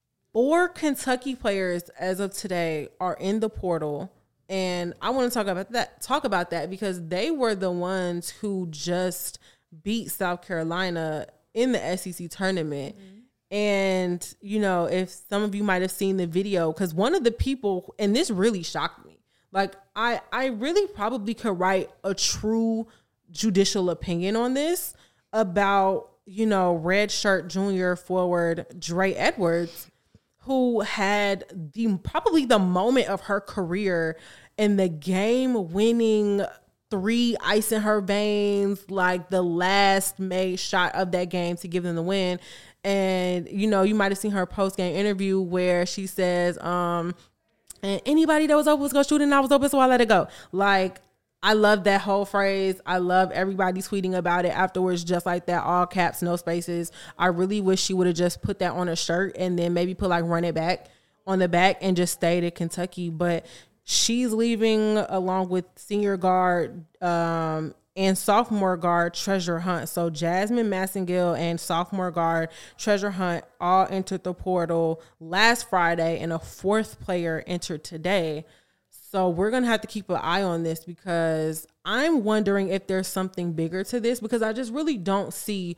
four Kentucky players as of today are in the portal. And I want to talk about that, talk about that because they were the ones who just beat South Carolina in the S E C tournament. Mm-hmm. And, you know, if some of you might have seen the video, because one of the people, and this really shocked me, like I, I really probably could write a true judicial opinion on this about, you know, red shirt junior forward Dre Edwards, who had the probably the moment of her career and the game-winning three ice in her veins, like the last made shot of that game to give them the win. And, you know, you might have seen her post-game interview where she says, um, and anybody that was open was going to shoot and I was open, so I let it go. Like, I love that whole phrase. I love everybody tweeting about it afterwards, just like that, all caps, no spaces. I really wish she would have just put that on a shirt and then maybe put like run it back on the back and just stayed at Kentucky. But she's leaving along with senior guard um, and sophomore guard Treasure Hunt. So Jasmine Massengill and sophomore guard Treasure Hunt all entered the portal last Friday, and a fourth player entered today. So we're going to have to keep an eye on this, because I'm wondering if there's something bigger to this, because I just really don't see.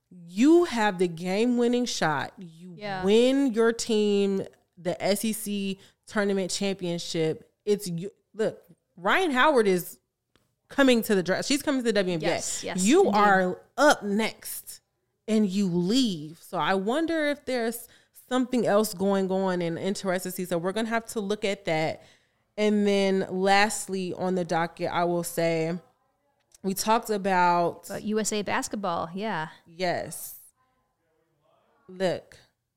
You have the game-winning shot. You yeah. win your team the S E C tournament championship. It's you. Look, Ryan Howard is coming to the draft. She's coming to the W N B A. Yes, yes, you indeed. are up next, and you leave. So I wonder if there's something else going on and interesting to see. So we're going to have to look at that. And then lastly on the docket, I will say we talked about But U S A basketball. Yeah. Yes. Look,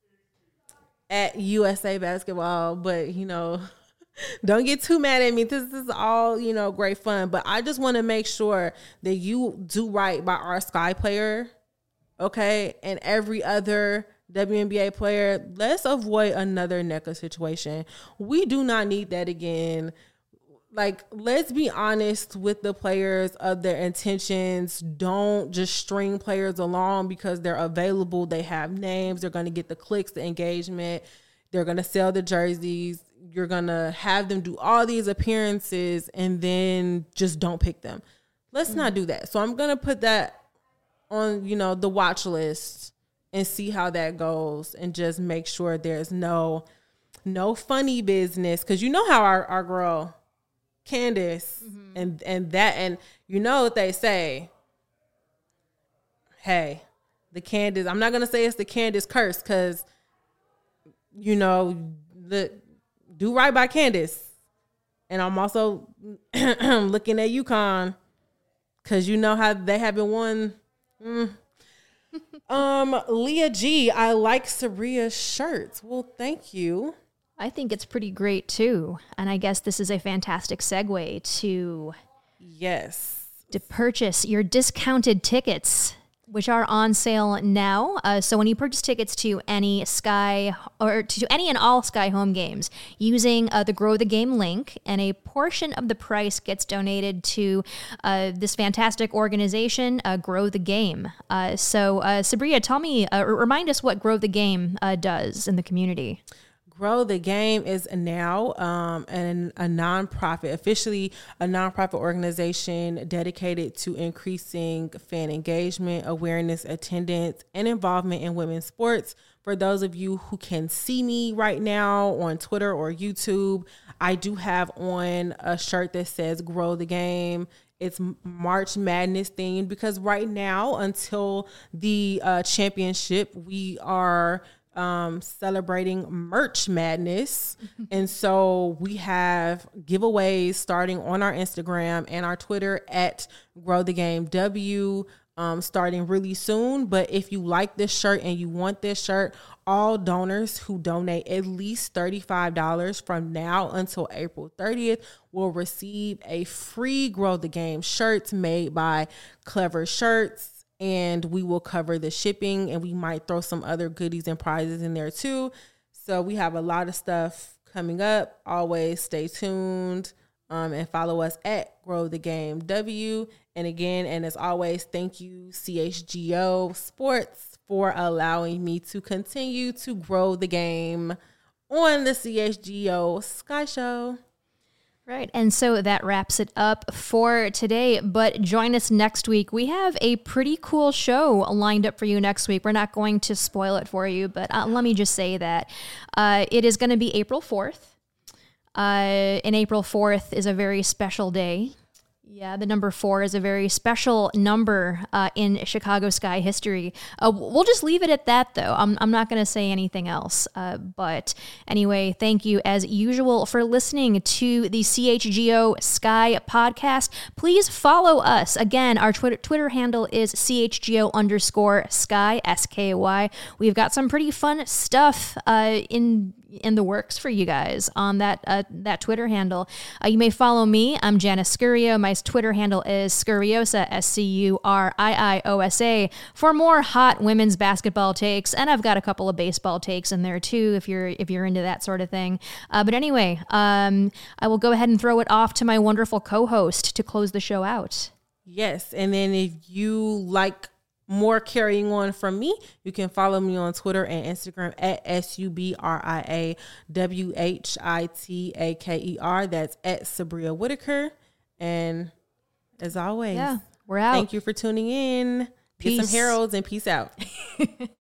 at U S A basketball, but, you know, don't get too mad at me. This is all, you know, great fun. But I just want to make sure that you do right by our Sky player, okay, and every other W N B A player. Let's avoid another N E C A situation. We do not need that again. Like, let's be honest with the players of their intentions. Don't just string players along because they're available. They have names. They're going to get the clicks, the engagement. They're going to sell the jerseys. You're going to have them do all these appearances and then just don't pick them. Let's mm-hmm. not do that. So I'm going to put that on, you know, the watch list and see how that goes, and just make sure there's no no funny business. Because you know how our, our girl Candace mm-hmm. and and that, and you know what they say, hey, the Candace, I'm not gonna say it's the Candace curse, because you know, the do right by Candace. And I'm also looking at UConn, because you know how they haven't won. mm. Um, Leah G, I like Sabria's shirts. Well, thank you. I think it's pretty great too. And I guess this is a fantastic segue to yes, to purchase your discounted tickets, which are on sale now. Uh, so when you purchase tickets to any Sky or to any and all Sky home games using uh, the Grow the Game link, and a portion of the price gets donated to uh, this fantastic organization, uh, Grow the Game. Uh, so uh, Sabria, tell me, uh, remind us what Grow the Game uh, does in the community. Grow the Game is now um, an, a nonprofit, officially a nonprofit organization dedicated to increasing fan engagement, awareness, attendance, and involvement in women's sports. For those of you who can see me right now on Twitter or YouTube, I do have on a shirt that says Grow the Game. It's March Madness themed, because right now, until the uh, championship, we are um, celebrating Merch Madness. And so we have giveaways starting on our Instagram and our Twitter at Grow the Game W, um, starting really soon. But if you like this shirt and you want this shirt, all donors who donate at least thirty-five dollars from now until April thirtieth will receive a free Grow the Game shirt made by Clever Shirts, and we will cover the shipping, and we might throw some other goodies and prizes in there too. So we have a lot of stuff coming up. Always stay tuned um, and follow us at Grow the Game W. And again, and as always, thank you C H G O Sports for allowing me to continue to grow the game on the C H G O Sky Show. Right. And so that wraps it up for today. But join us next week. We have a pretty cool show lined up for you next week. We're not going to spoil it for you, but uh, let me just say that uh, it is going to be April fourth. Uh, and April fourth is a very special day. Yeah, the number four is a very special number uh, in Chicago Sky history. Uh, we'll just leave it at that, though. I'm, I'm not going to say anything else. Uh, but anyway, thank you, as usual, for listening to the C H G O Sky podcast. Please follow us. Again, our Twitter, Twitter handle is C H G O underscore Sky, S K Y. We've got some pretty fun stuff uh, in in the works for you guys on that uh, that Twitter handle. Uh, you may follow me. I'm Janice Scurio. My Twitter handle is Scuriosa, S C U R I I O S A, for more hot women's basketball takes. And I've got a couple of baseball takes in there too, if you're if you're into that sort of thing. Uh, but anyway, um, I will go ahead and throw it off to my wonderful co-host to close the show out. Yes, and then if you like more carrying on from me, you can follow me on Twitter and Instagram at S U B R I A W H I T A K E R. That's at Sabria Whitaker. And as always, yeah, we're out. Thank you for tuning in. Peace. Get some Heralds and peace out.